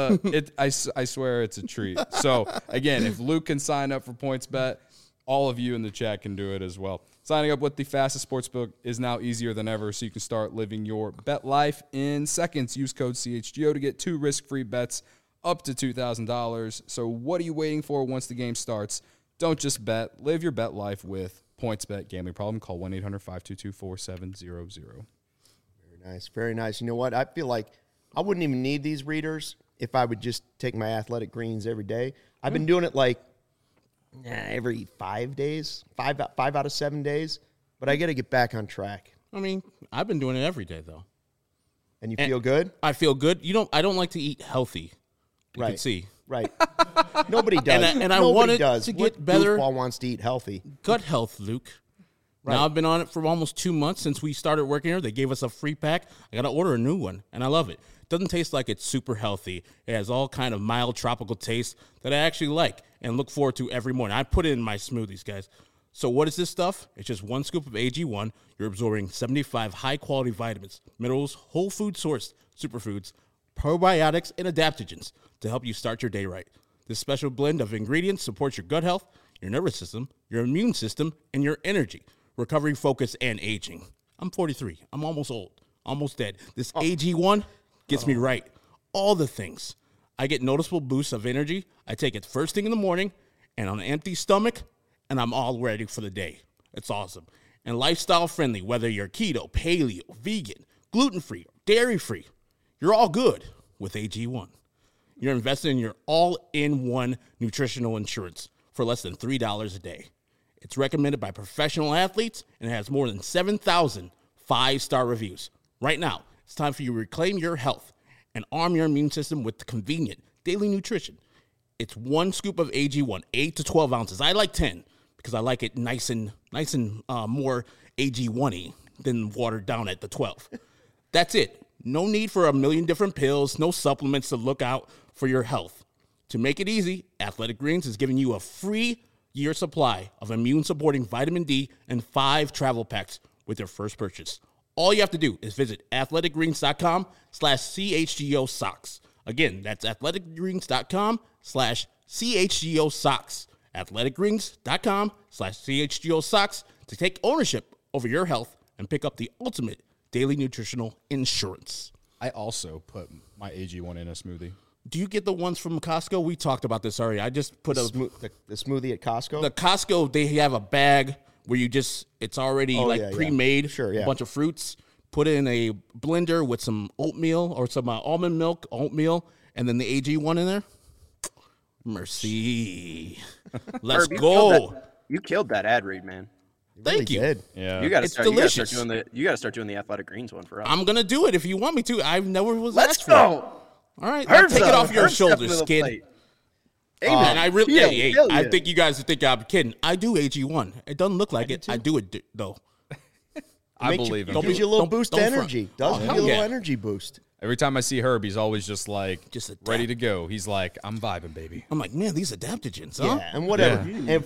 I swear it's a treat. So, again, if Luke can sign up for PointsBet, all of you in the chat can do it as well. Signing up with the fastest sportsbook is now easier than ever, so you can start living your bet life in seconds. Use code CHGO to get 2 risk-free bets up to $2,000. So what are you waiting for once the game starts? Don't just bet. Live your bet life with PointsBet. Gambling problem? Call 1-800-522-4700. Very nice. Very nice. You know what? I feel like I wouldn't even need these readers if I would just take my Athletic Greens every day. I've been doing it like every 5 days, 5 out of 7 days, but I got to get back on track. I mean, I've been doing it every day though. And you feel good? I feel good. I don't like to eat healthy. You can see. Right. Nobody does. And I wanted to get better. Goofball wants to eat healthy. Gut health, Luke. Right. Now I've been on it for almost 2 months since we started working here. They gave us a free pack. I got to order a new one, and I love it. Doesn't taste like it's super healthy. It has all kind of mild tropical taste that I actually like and look forward to every morning. I put it in my smoothies, guys. So what is this stuff? It's just 1 scoop of AG1. You're absorbing 75 high-quality vitamins, minerals, whole food sourced superfoods, probiotics, and adaptogens to help you start your day right. This special blend of ingredients supports your gut health, your nervous system, your immune system, and your energy, recovery, focus, and aging. I'm 43. I'm almost old, almost dead. This AG1 gets me right. All the things. I get noticeable boosts of energy. I take it first thing in the morning and on an empty stomach, and I'm all ready for the day. It's awesome. And lifestyle friendly, whether you're keto, paleo, vegan, gluten-free, dairy-free, you're all good with AG1. You're investing in your all-in-one nutritional insurance for less than $3 a day. It's recommended by professional athletes and it has more than 7,000 5-star reviews. Right now, it's time for you to reclaim your health and arm your immune system with convenient daily nutrition. It's 1 scoop of AG1, 8 to 12 ounces. I like 10 because I like it nice and more AG1-y than watered down at the 12. That's it. No need for a million different pills, no supplements to look out for your health. To make it easy, Athletic Greens is giving you a free year supply of immune-supporting vitamin D and 5 travel packs with your first purchase. All you have to do is visit athleticgreens.com/CHGO socks. Again, that's athleticgreens.com/CHGO socks. athleticgreens.com/CHGO socks to take ownership over your health and pick up the ultimate daily nutritional insurance. I also put my AG1 in a smoothie. Do you get the ones from Costco? We talked about this already. I just put The smoothie at Costco. the Costco. They have a bag where it's already yeah. pre-made. Sure, yeah. A bunch of fruits. Put it in a blender with some oatmeal or some almond milk, oatmeal, and then the AG1 in there. Mercy. Let's Herb, go. You killed that ad read, man. Thank you. Did. Yeah. You got to It's start. delicious. You got to start doing the Athletic Greens one for us. I'm gonna do it if you want me to. I've never was Let's asked for it. go. All right, Herb's take it up. off your Herb's stepping shoulders, to the kid. plate. And I really, Yeah, hey, hell I yeah. think you guys think I'm kidding. I do AG1. It doesn't look like it. I do it though. I Makes believe you, him. gives you a little Don't- boost don't of front. energy. Does Oh, give hell you a little yeah. energy boost. Every time I see Herb, he's always just like, Just adapt. ready to go. He's like, I'm vibing, baby. I'm like, man, these adaptogens, huh? Yeah, and whatever. And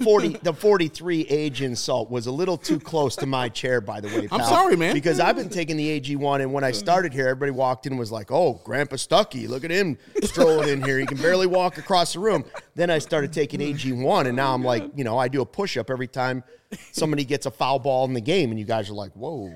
43 age in salt was a little too close to my chair, by the way. I'm pal, sorry, man. Because I've been taking the AG1, and when I started here, everybody walked in and was like, "Oh, Grandpa Stucky, look at him strolling in here. He can barely walk across the room." Then I started taking AG1, and now I'm like, I do a push-up every time somebody gets a foul ball in the game, and you guys are like, "Whoa."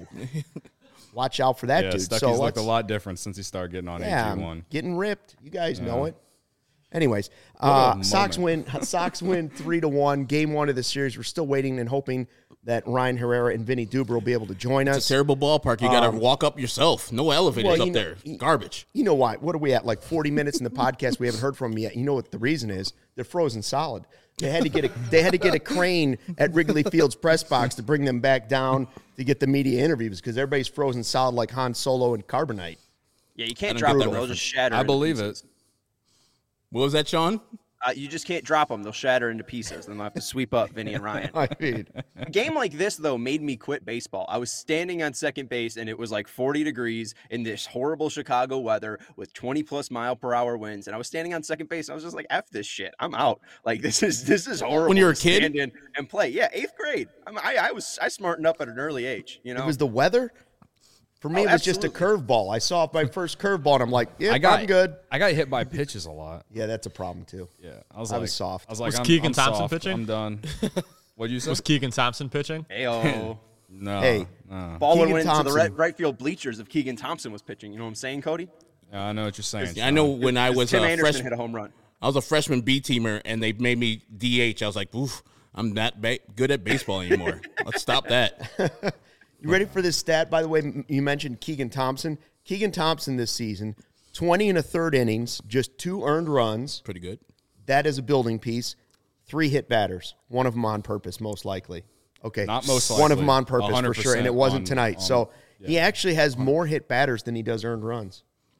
Watch out for that Yeah, dude. Stucky's So looked a let's- lot different since he started getting on Yeah, I'm AG1. getting ripped. You guys know it. Anyways, a Sox moment. win. Sox win 3-1. Game 1 of the series. We're still waiting and hoping that Ryan Herrera and Vinny Duber will be able to join It's us. a terrible ballpark. You got to walk up yourself. No elevators well, up you know- there. Garbage. You know why? What are we at? Like 40 minutes in the podcast. We haven't heard from them yet. You know what the reason is? They're frozen solid. They had to get a crane at Wrigley Field's press box to bring them back down to get the media interviews because everybody's frozen solid like Han Solo and Carbonite. Yeah, you can't That's drop them. brutal. They'll just shatter. I into believe pieces. it. What was that, Sean? You just can't drop them. They'll shatter into pieces. Then they'll have to sweep up Vinny and Ryan. I mean, A game like this, though, made me quit baseball. I was standing on second base, and it was like 40 degrees in this horrible Chicago weather with 20-plus mile-per-hour winds. And I was standing on second base, and I was just like, "F this shit. I'm out. Like this is horrible." When you were a to kid? stand in and play. Yeah, 8th grade. I smartened up at an early age. You know, it was the weather. For me, Oh, it was just a curveball. I saw my first curveball, and I'm like, "Yeah, I'm good." I got hit by pitches a lot. Yeah, that's a problem too. Yeah, I was soft. I was like, Was I'm, Keegan I'm Thompson soft. pitching? I'm done. What'd you say? Was Keegan Thompson pitching? Ayo. No. Hey. no. Ball Keegan went into the Thompson. right field bleachers if Keegan Thompson was pitching. You know what I'm saying, Cody? Yeah, I know what you're saying. I know when I was Tim a Anderson hit freshman, a home run. I was a freshman B teamer, and they made me DH. I was like, oof, I'm not good at baseball anymore. Let's stop that. You ready for this stat? By the way, you mentioned Keegan Thompson. Keegan Thompson this season, 20 and a third innings, just 2 earned runs. Pretty good. That is a building piece. 3 hit batters, one of them on purpose, most likely. Okay, Not most one of likely. them on purpose for sure, and it 100% wasn't tonight. So yeah. he actually has more hit batters than he does earned runs.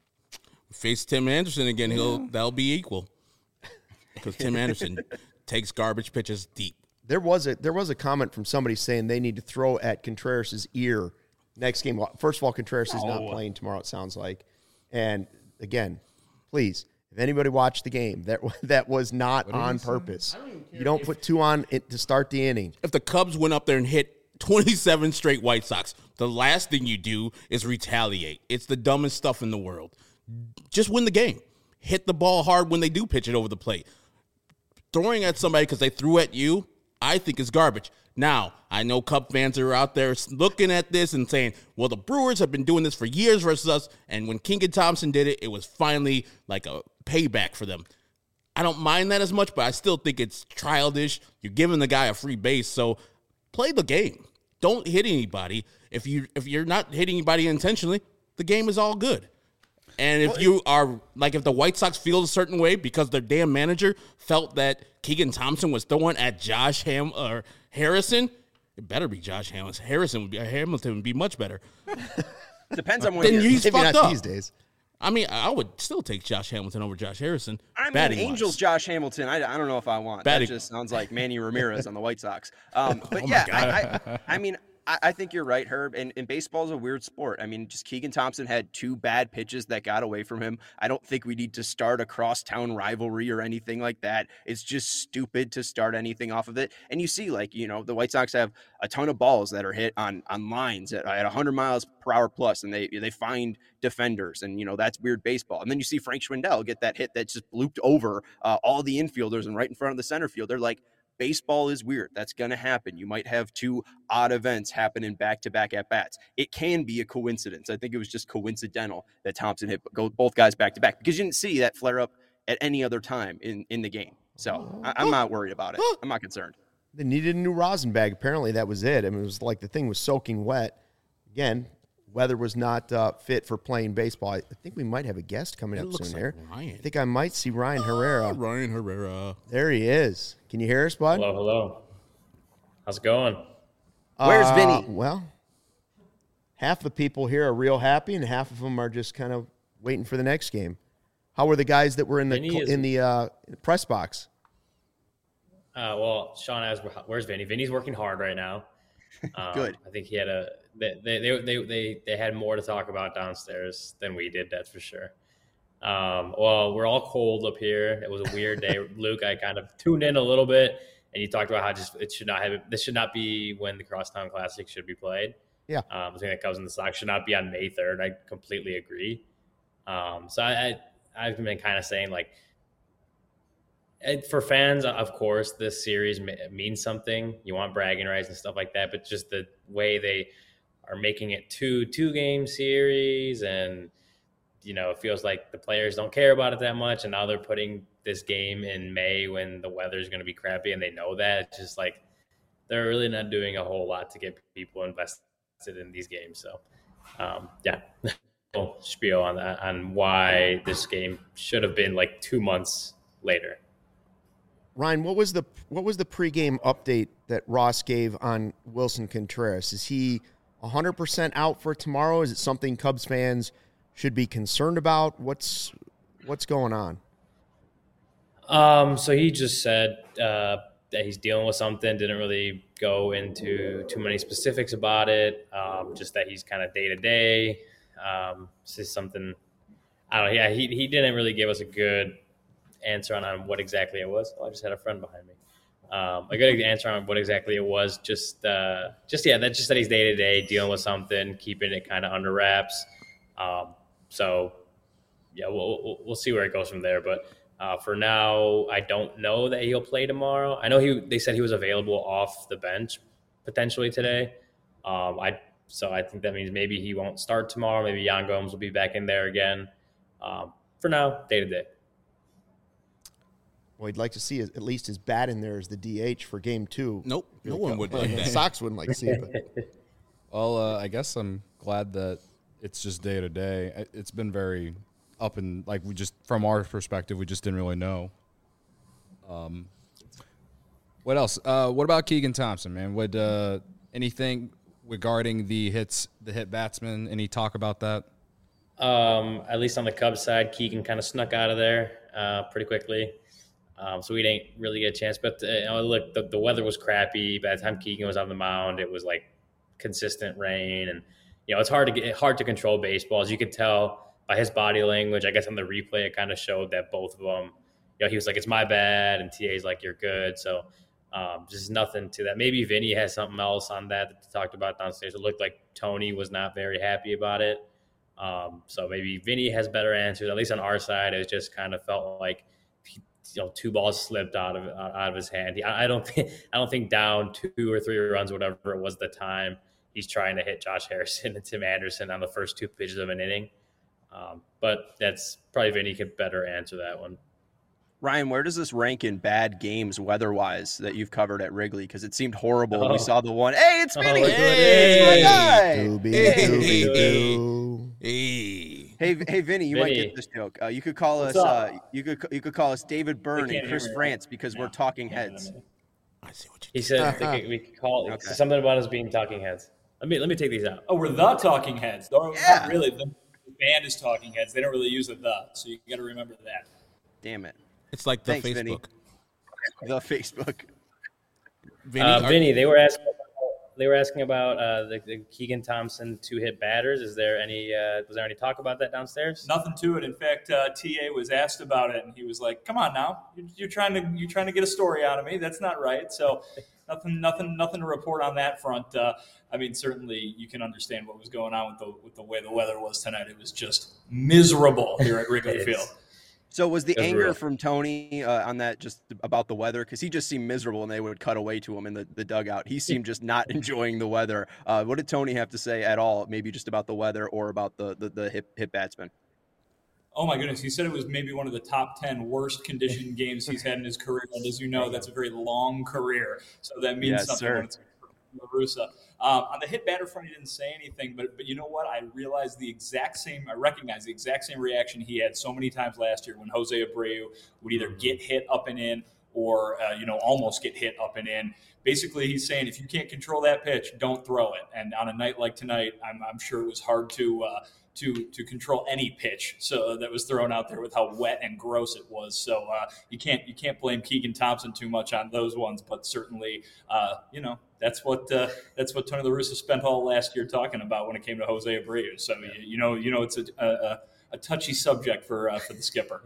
Face Tim Anderson again. That'll be equal because Tim Anderson takes garbage pitches deep. There was a comment from somebody saying they need to throw at Contreras' ear next game. First of all, Contreras is not playing tomorrow, it sounds like. And again, please, if anybody watched the game, that was not on purpose. You don't put 2 on it to start the inning. If the Cubs went up there and hit 27 straight White Sox, the last thing you do is retaliate. It's the dumbest stuff in the world. Just win the game. Hit the ball hard when they do pitch it over the plate. Throwing at somebody because they threw at you, I think is garbage. Now, I know Cub fans are out there looking at this and saying, well, the Brewers have been doing this for years versus us, and when Keegan Thompson did it, it was finally like a payback for them. I don't mind that as much, but I still think it's childish. You're giving the guy a free base, so play the game. Don't hit anybody. If you're not hitting anybody intentionally, the game is all good. And if you are like, if the White Sox feel a certain way because their damn manager felt that Keegan Thompson was throwing at Harrison, it better be Josh Hamilton. Hamilton would be much better. Depends on when Then you're. he's Maybe fucked not up. these days. I mean, I would still take Josh Hamilton over Josh Harrison. I mean, batting-wise. Angels Josh Hamilton. I don't know if I want. Batting. That just sounds like Manny Ramirez on the White Sox. But yeah, I mean, I think you're right, Herb. And baseball is a weird sport. I mean, just Keegan Thompson had 2 bad pitches that got away from him. I don't think we need to start a crosstown rivalry or anything like that. It's just stupid to start anything off of it. And you see, like, the White Sox have a ton of balls that are hit on lines at 100 miles per hour plus, and they find defenders, and that's weird baseball. And then you see Frank Schwindel get that hit that just blooped over all the infielders and right in front of the center field. They're like, baseball is weird. That's going to happen. You might have 2 odd events happen in back-to-back at-bats. It can be a coincidence. I think it was just coincidental that Thompson hit both guys back-to-back because you didn't see that flare-up at any other time in the game. So I'm not worried about it. I'm not concerned. They needed a new rosin bag. Apparently, that was it. I mean, it was like the thing was soaking wet. Again, weather was not fit for playing baseball. I think we might have a guest coming up soon here. Ryan. I think I might see Ryan Herrera. Ryan Herrera. There he is. Can you hear us, bud? Hello. How's it going? Where's Vinny? Well, half the people here are real happy, and half of them are just kind of waiting for the next game. How were the guys that were in the press box? Well, Sean asked, "Where's Vinny?" Vinny's working hard right now. Good. I think he had they had more to talk about downstairs than we did. That's for sure. Well, we're all cold up here. It was a weird day. Luke, I kind of tuned in a little bit, and you talked about how this should not be when the Crosstown Classic should be played. Yeah. The thing that comes in the Sox should not be on May 3rd. I completely agree. So I've been kind of saying, like, for fans, of course, this series means something. You want bragging rights and stuff like that, but just the way they are making it two-game series, and it feels like the players don't care about it that much, and now they're putting this game in May when the weather is going to be crappy, and they know that. It's just like they're really not doing a whole lot to get people invested in these games. So, yeah. Spiel on that, on why this game should have been like 2 months later. Ryan, what was the pregame update that Ross gave on Wilson Contreras? Is he 100% out for tomorrow? Is it something Cubs fans should be concerned about? What's going on? So he just said that he's dealing with something. Didn't really go into too many specifics about it. Just that he's kind of day to day. This is something I don't know. Yeah, he didn't really give us a good answer on what exactly it was. Oh, I just had a friend behind me. A good answer on what exactly it was. Just that's just that he's day to day dealing with something, keeping it kind of under wraps. So yeah, we'll see where it goes from there. But for now, I don't know that he'll play tomorrow. I know they said he was available off the bench potentially today. So I think that means maybe he won't start tomorrow. Maybe Yan Gomes will be back in there again. For now, day to day. Well, he'd like to see at least his bat in there as the DH for Game 2. Nope, no one would like The that. Sox wouldn't like to see it. But. Well, I guess I'm glad that it's just day to day. It's been very up and like from our perspective, we just didn't really know. What else? What about Keegan Thompson, man? Would anything regarding the hit batsman? Any talk about that? At least on the Cubs side, Keegan kind of snuck out of there pretty quickly. So we didn't really get a chance. But look, the weather was crappy. By the time Keegan was on the mound, it was like consistent rain, and it's hard to control baseball. As you could tell by his body language, I guess on the replay, it kind of showed that both of them. He was like, "It's my bad," and TA's like, "You're good." So just nothing to that. Maybe Vinny has something else on that they talked about downstairs. It looked like Tony was not very happy about it. So maybe Vinny has better answers. At least on our side, it just kind of felt like 2 balls slipped out of his hand. I don't think down 2 or 3 runs, whatever it was at the time, he's trying to hit Josh Harrison and Tim Anderson on the first 2 pitches of an inning. But that's probably Vinny could better answer that one. Ryan, where does this rank in bad games weather-wise that you've covered at Wrigley? Because it seemed horrible when we saw the one. Hey, it's Vinny! Hey! It's my guy! Doobie-doobie-doo. Hey, Vinny, you might get this joke. You could call us. You could call us David Byrne and Chris France because we're talking heads. I see what you He said we could call it something about us being talking heads. Let me take these out. Oh, we're the talking heads. Yeah. Not really. The band is talking heads. They don't really use the, so you got to remember that. Damn it. It's like the Thanks, Facebook. Vinny. The Facebook. Vinny, they were asking about the Keegan Thompson 2-hit batters. Is there any was there any talk about that downstairs? Nothing to it. In fact, TA was asked about it, and he was like, "Come on now, you're trying to get a story out of me. That's not right." So, nothing to report on that front. Certainly you can understand what was going on with the way the weather was tonight. It was just miserable here at Wrigley Field. So was the anger real. from Tony on that just about the weather? Because he just seemed miserable, and they would cut away to him in the dugout. He seemed just not enjoying the weather. What did Tony have to say at all? Maybe just about the weather or about the hit batsman? Oh my goodness! He said it was maybe one of the top 10 worst conditioned games he's had in his career. And as you know, that's a very long career, so that means something. When it's La Russa. On the hit batter front, he didn't say anything, but you know what? I recognize the exact same reaction he had so many times last year when Jose Abreu would either get hit up and in or almost get hit up and in. Basically, he's saying if you can't control that pitch, don't throw it. And on a night like tonight, I'm sure it was hard to control any pitch that was thrown out there with how wet and gross it was. So you can't blame Keegan Thompson too much on those ones, but certainly that's what Tony La Russa spent all last year talking about when it came to Jose Abreu. So it's a touchy subject for the skipper.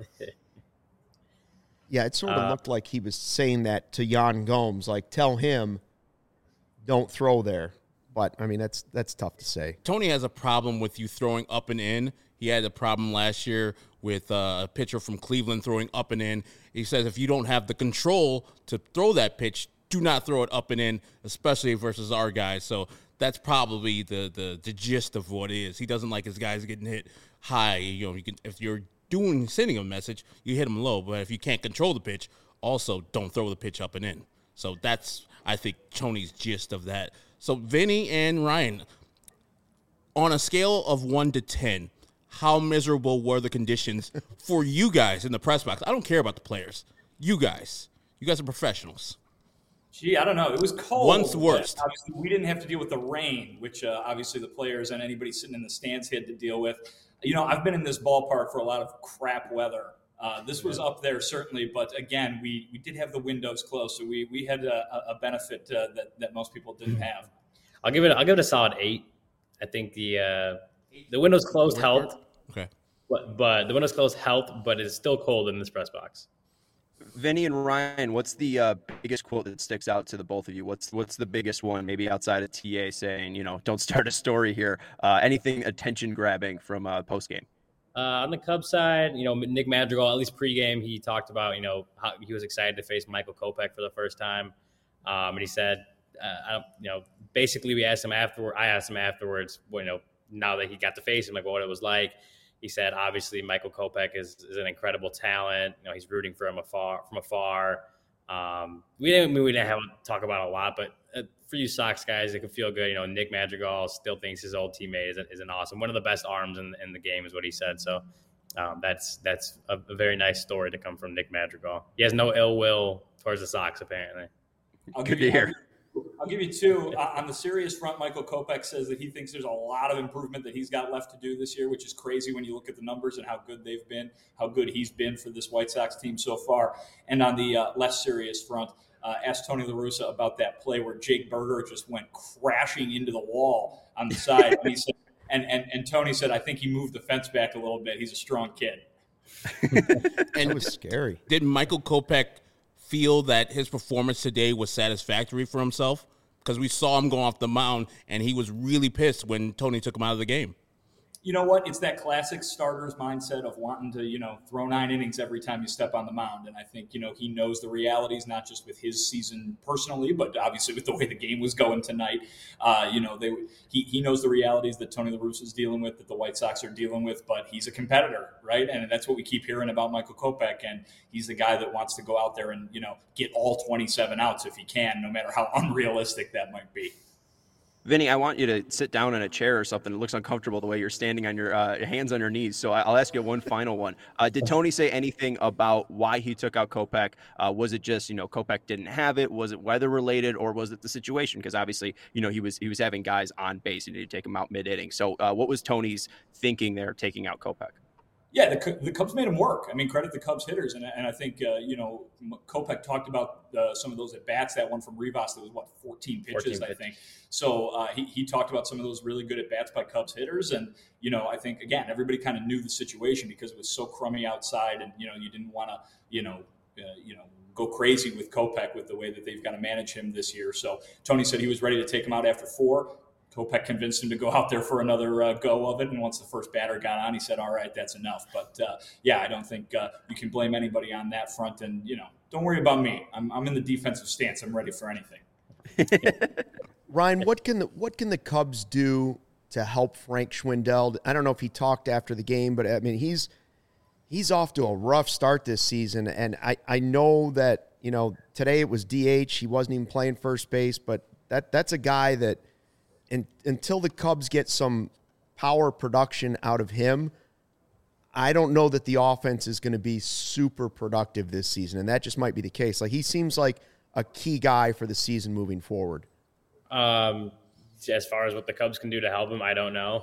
Yeah, it sort of looked like he was saying that to Yan Gomes, like tell him don't throw there. But, I mean, that's tough to say. Tony has a problem with you throwing up and in. He had a problem last year with a pitcher from Cleveland throwing up and in. He says if you don't have the control to throw that pitch, do not throw it up and in, especially versus our guys. So that's probably the gist of what it is. He doesn't like his guys getting hit high. If you're sending a message, you hit them low. But if you can't control the pitch, also don't throw the pitch up and in. So that's, I think, Tony's gist of that. So, Vinny and Ryan, on a scale of 1 to 10, how miserable were the conditions for you guys in the press box? I don't care about the players. You guys are professionals. Gee, I don't know. It was cold. One's worst. Obviously, we didn't have to deal with the rain, which obviously the players and anybody sitting in the stands had to deal with. I've been in this ballpark for a lot of crap weather. This was up there certainly, but again, we did have the windows closed, so we had a benefit that most people didn't have. I'll give it a solid 8. I think the windows closed helped. Okay, but the windows closed helped, but it's still cold in this press box. Vinny and Ryan, what's the biggest quote that sticks out to the both of you? What's the biggest one? Maybe outside of TA saying, don't start a story here. Anything attention grabbing from post game? On the Cubs side, Nick Madrigal, at least pregame, he talked about, how he was excited to face Michael Kopech for the first time. And he said, basically I asked him afterwards, now that he got to face him, like what it was like. He said, obviously Michael Kopech is an incredible talent. He's rooting for him from afar. We didn't have to talk about it a lot, but for you Sox guys, it could feel good. Nick Madrigal still thinks his old teammate is an awesome, one of the best arms in the game is what he said. So that's a very nice story to come from Nick Madrigal. He has no ill will towards the Sox, apparently. Good to hear. I'll give you 2. On the serious front, Michael Kopech says that he thinks there's a lot of improvement that he's got left to do this year, which is crazy when you look at the numbers and how good they've been, how good he's been for this White Sox team so far. And on the less serious front, asked Tony La Russa about that play where Jake Berger just went crashing into the wall on the side. And he said, and Tony said, I think he moved the fence back a little bit. He's a strong kid. And it was scary. Did Michael Kopech feel that his performance today was satisfactory for himself? Because we saw him go off the mound, and he was really pissed when Tony took him out of the game. You know what? It's that classic starter's mindset of wanting to, throw 9 innings every time you step on the mound. And I think, he knows the realities, not just with his season personally, but obviously with the way the game was going tonight. He knows the realities that Tony La Russa is dealing with, that the White Sox are dealing with, but he's a competitor, right? And that's what we keep hearing about Michael Kopech. And he's the guy that wants to go out there and, get all 27 outs if he can, no matter how unrealistic that might be. Vinny, I want you to sit down in a chair or something. It looks uncomfortable the way you're standing on your hands on your knees. So I'll ask you one final one. Did Tony say anything about why he took out Kopech? Was it just, Kopech didn't have it? Was it weather related, or was it the situation? Because obviously, he was having guys on base. He needed to take them out mid-inning. So what was Tony's thinking there, taking out Kopech? Yeah, the Cubs made him work. I mean, credit the Cubs hitters. And I think, Kopech talked about some of those at-bats, that one from Rivas that was, 14 pitches, I think. So he talked about some of those really good at-bats by Cubs hitters. And, I think, again, everybody kind of knew the situation because it was so crummy outside and, you didn't want to, go crazy with Kopech with the way that they've got to manage him this year. So Tony said he was ready to take him out after 4. Kopech convinced him to go out there for another go of it. And once the first batter got on, he said, all right, that's enough. But, I don't think you can blame anybody on that front. And, don't worry about me. I'm in the defensive stance. I'm ready for anything. Ryan, what can the Cubs do to help Frank Schwindel? I don't know if he talked after the game, but, I mean, he's he's off to a rough start this season, and I know that, today it was DH. He wasn't even playing first base, but that's a guy that until the Cubs get some power production out of him, I don't know that the offense is going to be super productive this season, and that just might be the case. Like, he seems like a key guy for the season moving forward. As far as what the Cubs can do to help him, I don't know.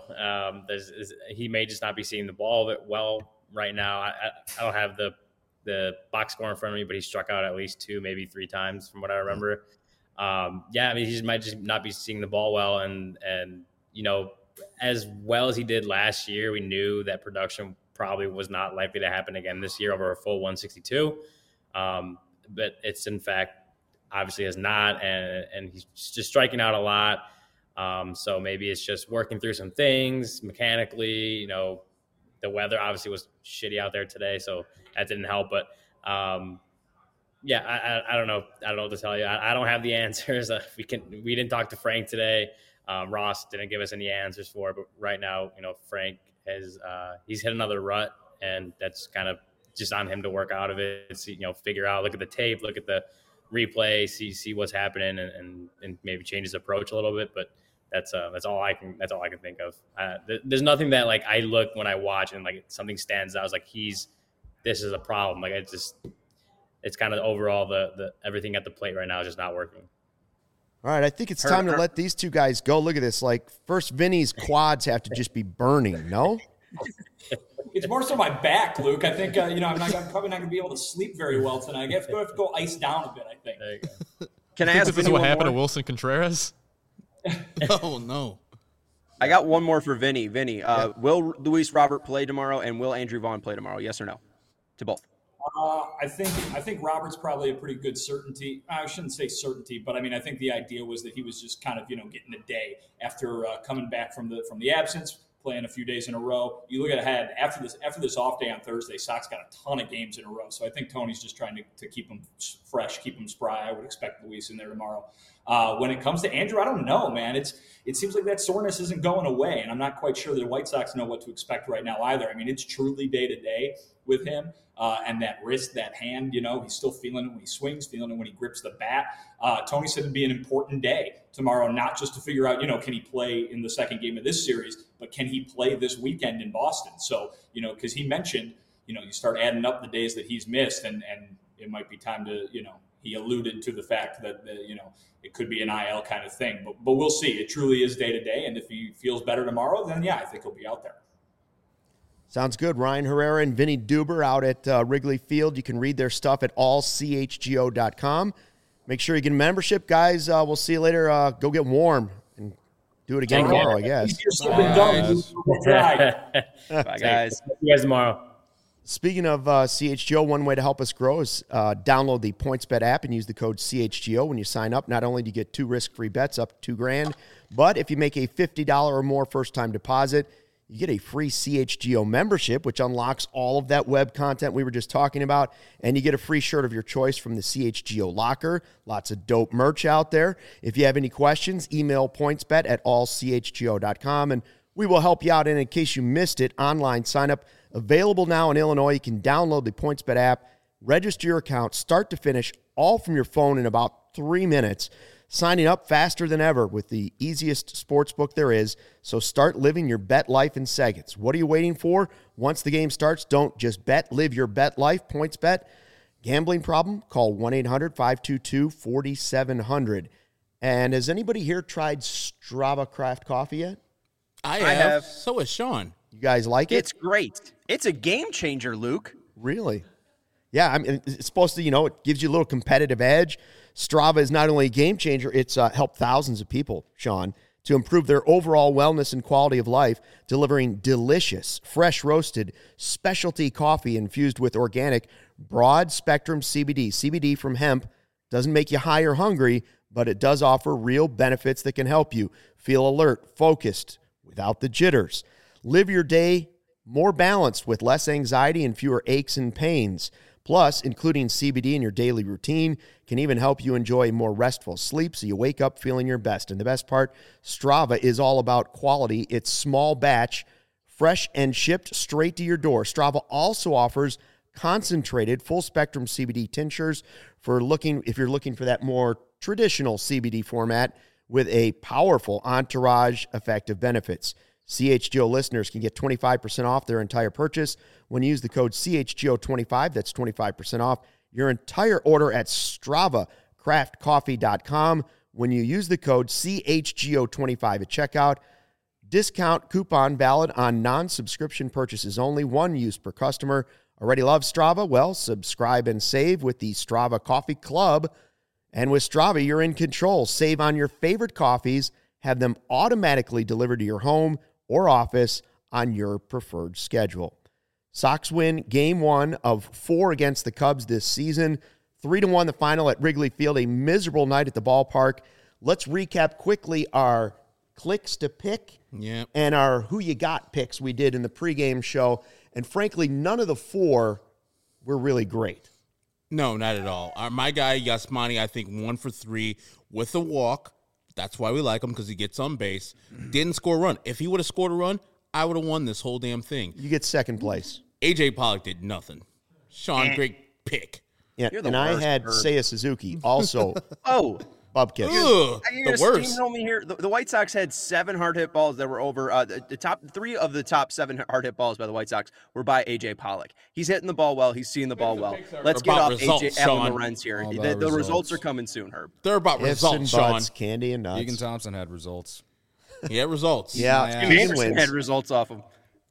He may just not be seeing the ball well right now. I don't have the box score in front of me, but he struck out at least 2, maybe 3 times from what I remember. He just might just not be seeing the ball well. And as well as he did last year, we knew that production probably was not likely to happen again this year over a full 162. But it's, in fact, obviously has not, and he's just striking out a lot. So maybe it's just working through some things mechanically. The weather obviously was shitty out there today, so that didn't help. But I don't know. I don't know what to tell you. I don't have the answers. We didn't talk to Frank today. Ross didn't give us any answers for it. But right now, Frank has he's hit another rut, and that's kind of just on him to work out of it. Figure out, look at the tape, look at the replay, see what's happening, and maybe change his approach a little bit. But that's all I can think of. There's nothing that like I look when I watch and like something stands out. I was like, this is a problem. Like it's kind of overall the everything at the plate right now is just not working. All right, I think it's time to let these two guys go. Look at this. Like, first, Vinny's quads have to just be burning, no? It's more so my back, Luke. I think, I'm probably not going to be able to sleep very well tonight. I have to go ice down a bit, I think. There you go. Can I ask this is what happened to Wilson Contreras? Oh, no. I got one more for Vinny. Vinny, will Luis Robert play tomorrow, and will Andrew Vaughn play tomorrow? Yes or no? To both. I think Robert's probably a pretty good certainty. I shouldn't say certainty, but I think the idea was that he was just kind of getting a day after coming back from the absence, playing a few days in a row. You look ahead after this off day on Thursday, Sox got a ton of games in a row. So I think Tony's just trying to keep them fresh, keep them spry. I would expect Luis in there tomorrow. When it comes to Andrew, I don't know, man. It seems like that soreness isn't going away, and I'm not quite sure the White Sox know what to expect right now either. It's truly day to day with him. And that wrist, that hand, he's still feeling it when he swings, feeling it when he grips the bat. Tony said it'd be an important day tomorrow, not just to figure out, can he play in the second game of this series, but can he play this weekend in Boston? So, because he mentioned, you start adding up the days that he's missed, and it might be time to, he alluded to the fact that, it could be an IL kind of thing. But we'll see. It truly is day to day, and if he feels better tomorrow, then, yeah, I think he'll be out there. Sounds good. Ryan Herrera and Vinny Duber out at Wrigley Field. You can read their stuff at allchgo.com. Make sure you get a membership, guys. We'll see you later. Go get warm and do it again tomorrow, I guess. Bye, guys. See you guys tomorrow. Speaking of CHGO, one way to help us grow is download the PointsBet app and use the code CHGO when you sign up. Not only do you get 2 risk-free bets up to $2,000, but if you make a $50 or more first-time deposit, you get a free CHGO membership, which unlocks all of that web content we were just talking about, and you get a free shirt of your choice from the CHGO locker. Lots of dope merch out there. If you have any questions, email pointsbet at allchgo.com, and we will help you out. And in case you missed it, online sign-up available now in Illinois. You can download the PointsBet app, register your account, start to finish, all from your phone in about 3 minutes. Signing up faster than ever with the easiest sportsbook there is. So start living your bet life in seconds. What are you waiting for? Once the game starts, don't just bet. Live your bet life. PointsBet. Gambling problem? Call 1-800-522-4700. And has anybody here tried Strava Craft Coffee yet? I have. So has Sean. You guys like it? It's great. It's a game changer, Luke. Really? Yeah, it's supposed to, it gives you a little competitive edge. Strava is not only a game changer, it's helped thousands of people, Sean, to improve their overall wellness and quality of life, delivering delicious, fresh roasted, specialty coffee infused with organic, broad-spectrum CBD. CBD from hemp doesn't make you high or hungry, but it does offer real benefits that can help you feel alert, focused, without the jitters. Live your day more balanced with less anxiety and fewer aches and pains. Plus, including CBD in your daily routine can even help you enjoy a more restful sleep so you wake up feeling your best. And the best part, Strava is all about quality. It's small batch, fresh and shipped straight to your door. Strava also offers concentrated full-spectrum CBD tinctures if you're looking for that more traditional CBD format with a powerful entourage effect of benefits. CHGO listeners can get 25% off their entire purchase when you use the code CHGO25. That's 25% off your entire order at StravaCraftCoffee.com when you use the code CHGO25 at checkout. Discount coupon valid on non-subscription purchases only. One use per customer. Already love Strava? Well, subscribe and save with the Strava Coffee Club. And with Strava, you're in control. Save on your favorite coffees. Have them automatically delivered to your home or office on your preferred schedule. Sox win Game 1 of 4 against the Cubs this season. 3-1 the final at Wrigley Field. A miserable night at the ballpark. Let's recap quickly our clicks to pick and our who you got picks we did in the pregame show. And frankly, none of the 4 were really great. No, not at all. My guy, Yasmani, I think 1 for 3 with a walk. That's why we like him, because he gets on base. Didn't score a run. If he would have scored a run, I would have won this whole damn thing. You get second place. A.J. Pollock did nothing. Sean, great pick. Yeah, and I had Seiya Suzuki also. Bubkiss. The worst. Me here. The White Sox had 7 hard hit balls that were over. The top 3 of the top 7 hard hit balls by the White Sox were by A.J. Pollock. He's hitting the ball well. He's seeing the ball well. Let's get off A.J. Alan Lorenz here. The results are coming soon, Herb. They're about results, Sean. Candy and nuts. Keegan Thompson had results. He had results. Yeah, Anderson had results off him.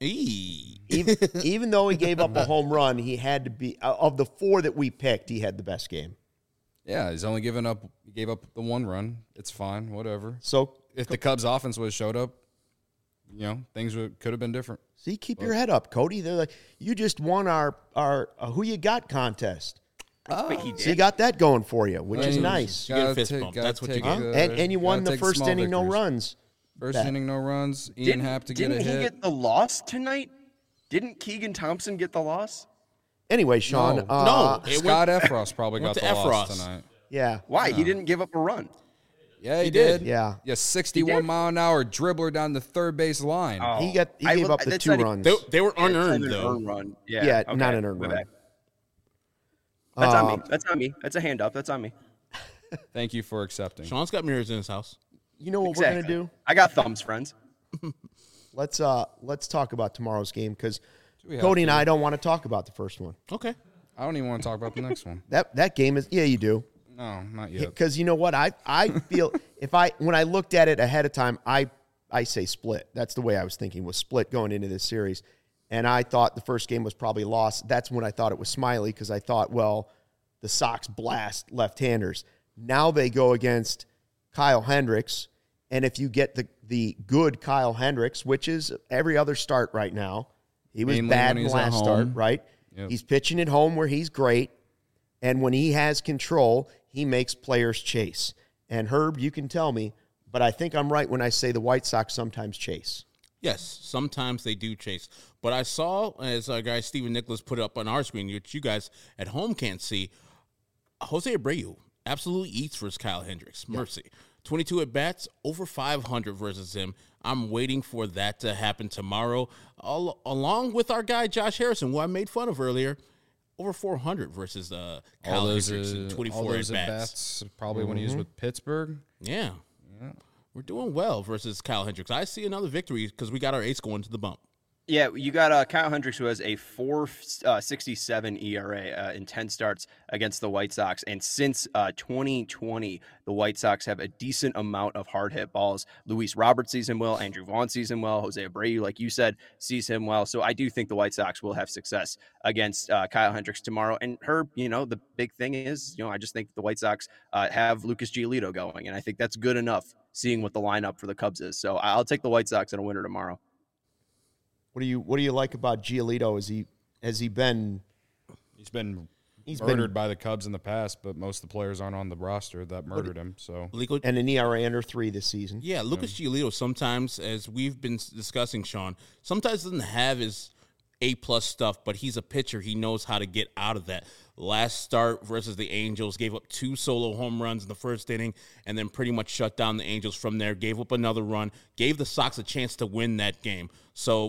Even though he gave up a home run, he had to be, of the 4 that we picked, he had the best game. Yeah, he gave up the 1 run. It's fine, whatever. So if the Cubs offense would have showed up, things could have been different. See, keep your head up, Cody. They're like, you just won our who you got contest. Oh, he did. So you got that going for you, which is nice. You get a fist bump. That's what you get. And you won the first inning, no runs. First inning, no runs. Ian Happ to get a hit. Didn't he get the loss tonight? Didn't Keegan Thompson get the loss? Anyway, Sean. No. Scott Efros probably got the loss tonight. Yeah. Why? He didn't give up a run. Yeah, he did. Yeah. 61-mile-an-hour dribbler down the third base line. Oh. He gave up the 2 runs. They were unearned, though. Run. Yeah, okay. not an earned run. That's on me. That's on me. That's a hand up. That's on me. Thank you for accepting. Sean's got mirrors in his house. You know what we're going to do? I got thumbs, friends. Let's talk about tomorrow's game, because Cody and I don't want to talk about the first one. Okay. I don't even want to talk about the next one. That game is, you do. No, not yet. Because you know what? I feel when I looked at it ahead of time, I say split. That's the way I was thinking, was split going into this series. And I thought the first game was probably lost. That's when I thought it was Smiley, because I thought, well, the Sox blast left-handers. Now they go against Kyle Hendricks, and if you get the good Kyle Hendricks, which is every other start right now, he was bad in the last start, right? Yep. He's pitching at home where he's great, and when he has control, he makes players chase. And Herb, you can tell me, but I think I'm right when I say the White Sox sometimes chase. Yes, sometimes they do chase. But I saw, as our guy Steven Nicholas put up on our screen, which you guys at home can't see, Jose Abreu absolutely eats versus Kyle Hendricks. Mercy. 22 at-bats, over 500 versus him. I'm waiting for that to happen tomorrow, along with our guy Josh Harrison, who I made fun of earlier. Over 400 versus Kyle Hendricks in 24 at-bats. Probably when he was with Pittsburgh. Yeah. We're doing well versus Kyle Hendricks. I see another victory because we got our ace going to the bump. Yeah, you got Kyle Hendricks, who has a 4.67 ERA in 10 starts against the White Sox. And since 2020, the White Sox have a decent amount of hard hit balls. Luis Robert sees him well. Andrew Vaughn sees him well. Jose Abreu, like you said, sees him well. So I do think the White Sox will have success against Kyle Hendricks tomorrow. And Herb, the big thing is, I just think the White Sox have Lucas Giolito going. And I think that's good enough, seeing what the lineup for the Cubs is. So I'll take the White Sox in a winner tomorrow. What do you like about Giolito? He's been murdered by the Cubs in the past, but most of the players aren't on the roster that murdered him. So and an ERA under 3 this season. Yeah, Lucas Giolito sometimes, as we've been discussing, Sean, sometimes doesn't have his A-plus stuff, but he's a pitcher. He knows how to get out of that. Last start versus the Angels, gave up 2 solo home runs in the first inning, and then pretty much shut down the Angels from there, gave up another run, gave the Sox a chance to win that game. So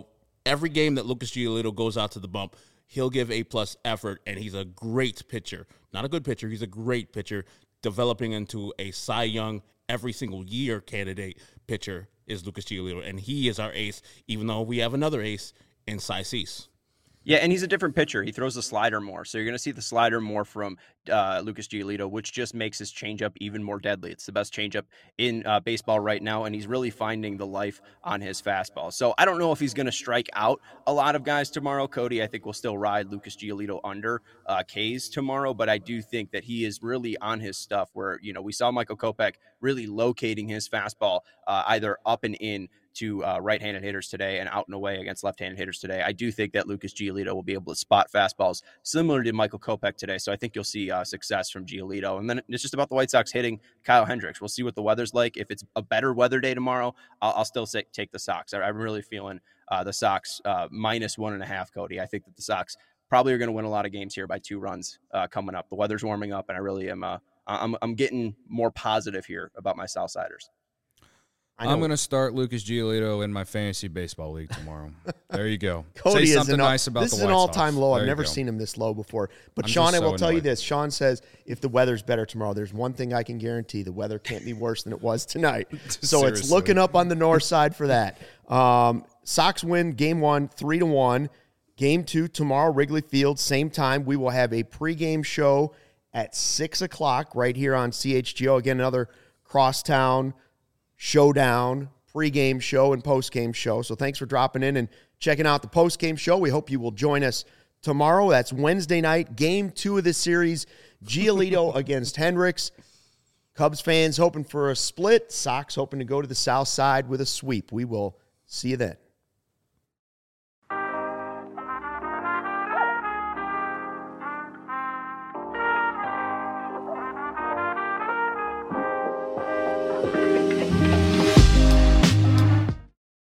every game that Lucas Giolito goes out to the bump, he'll give A-plus effort, and he's a great pitcher. Not a good pitcher. He's a great pitcher, developing into a Cy Young every single year candidate pitcher is Lucas Giolito, and he is our ace, even though we have another ace in Cy Cease. Yeah, and he's a different pitcher. He throws the slider more. So you're going to see the slider more from Lucas Giolito, which just makes his changeup even more deadly. It's the best changeup in baseball right now, and he's really finding the life on his fastball. So I don't know if he's going to strike out a lot of guys tomorrow. Cody, I think, will still ride Lucas Giolito under K's tomorrow, but I do think that he is really on his stuff where, we saw Michael Kopech really locating his fastball either up and in to right-handed hitters today and out and away against left-handed hitters today. I do think that Lucas Giolito will be able to spot fastballs similar to Michael Kopech today. So I think you'll see success from Giolito. And then it's just about the White Sox hitting Kyle Hendricks. We'll see what the weather's like. If it's a better weather day tomorrow, I'll still take the Sox. I'm really feeling the Sox minus 1.5, Cody. I think that the Sox probably are going to win a lot of games here by 2 runs coming up. The weather's warming up, and I really am I'm getting more positive here about my Southsiders. I'm going to start Lucas Giolito in my fantasy baseball league tomorrow. There you go. Cody Say something nice about the White Sox. This is an all-time low. I've never seen him this low before. But Sean, I will tell you this. Sean says if the weather's better tomorrow, there's one thing I can guarantee. The weather can't be worse than it was tonight. So it's looking up on the north side for that. Sox win Game 1, 3-1. Game 2 tomorrow, Wrigley Field, same time. We will have a pregame show at 6 o'clock right here on CHGO. Again, another crosstown showdown, pregame show and postgame show. So thanks for dropping in and checking out the postgame show. We hope you will join us tomorrow. That's Wednesday night, Game 2 of this series, Giolito against Hendricks. Cubs fans hoping for a split. Sox hoping to go to the south side with a sweep. We will see you then.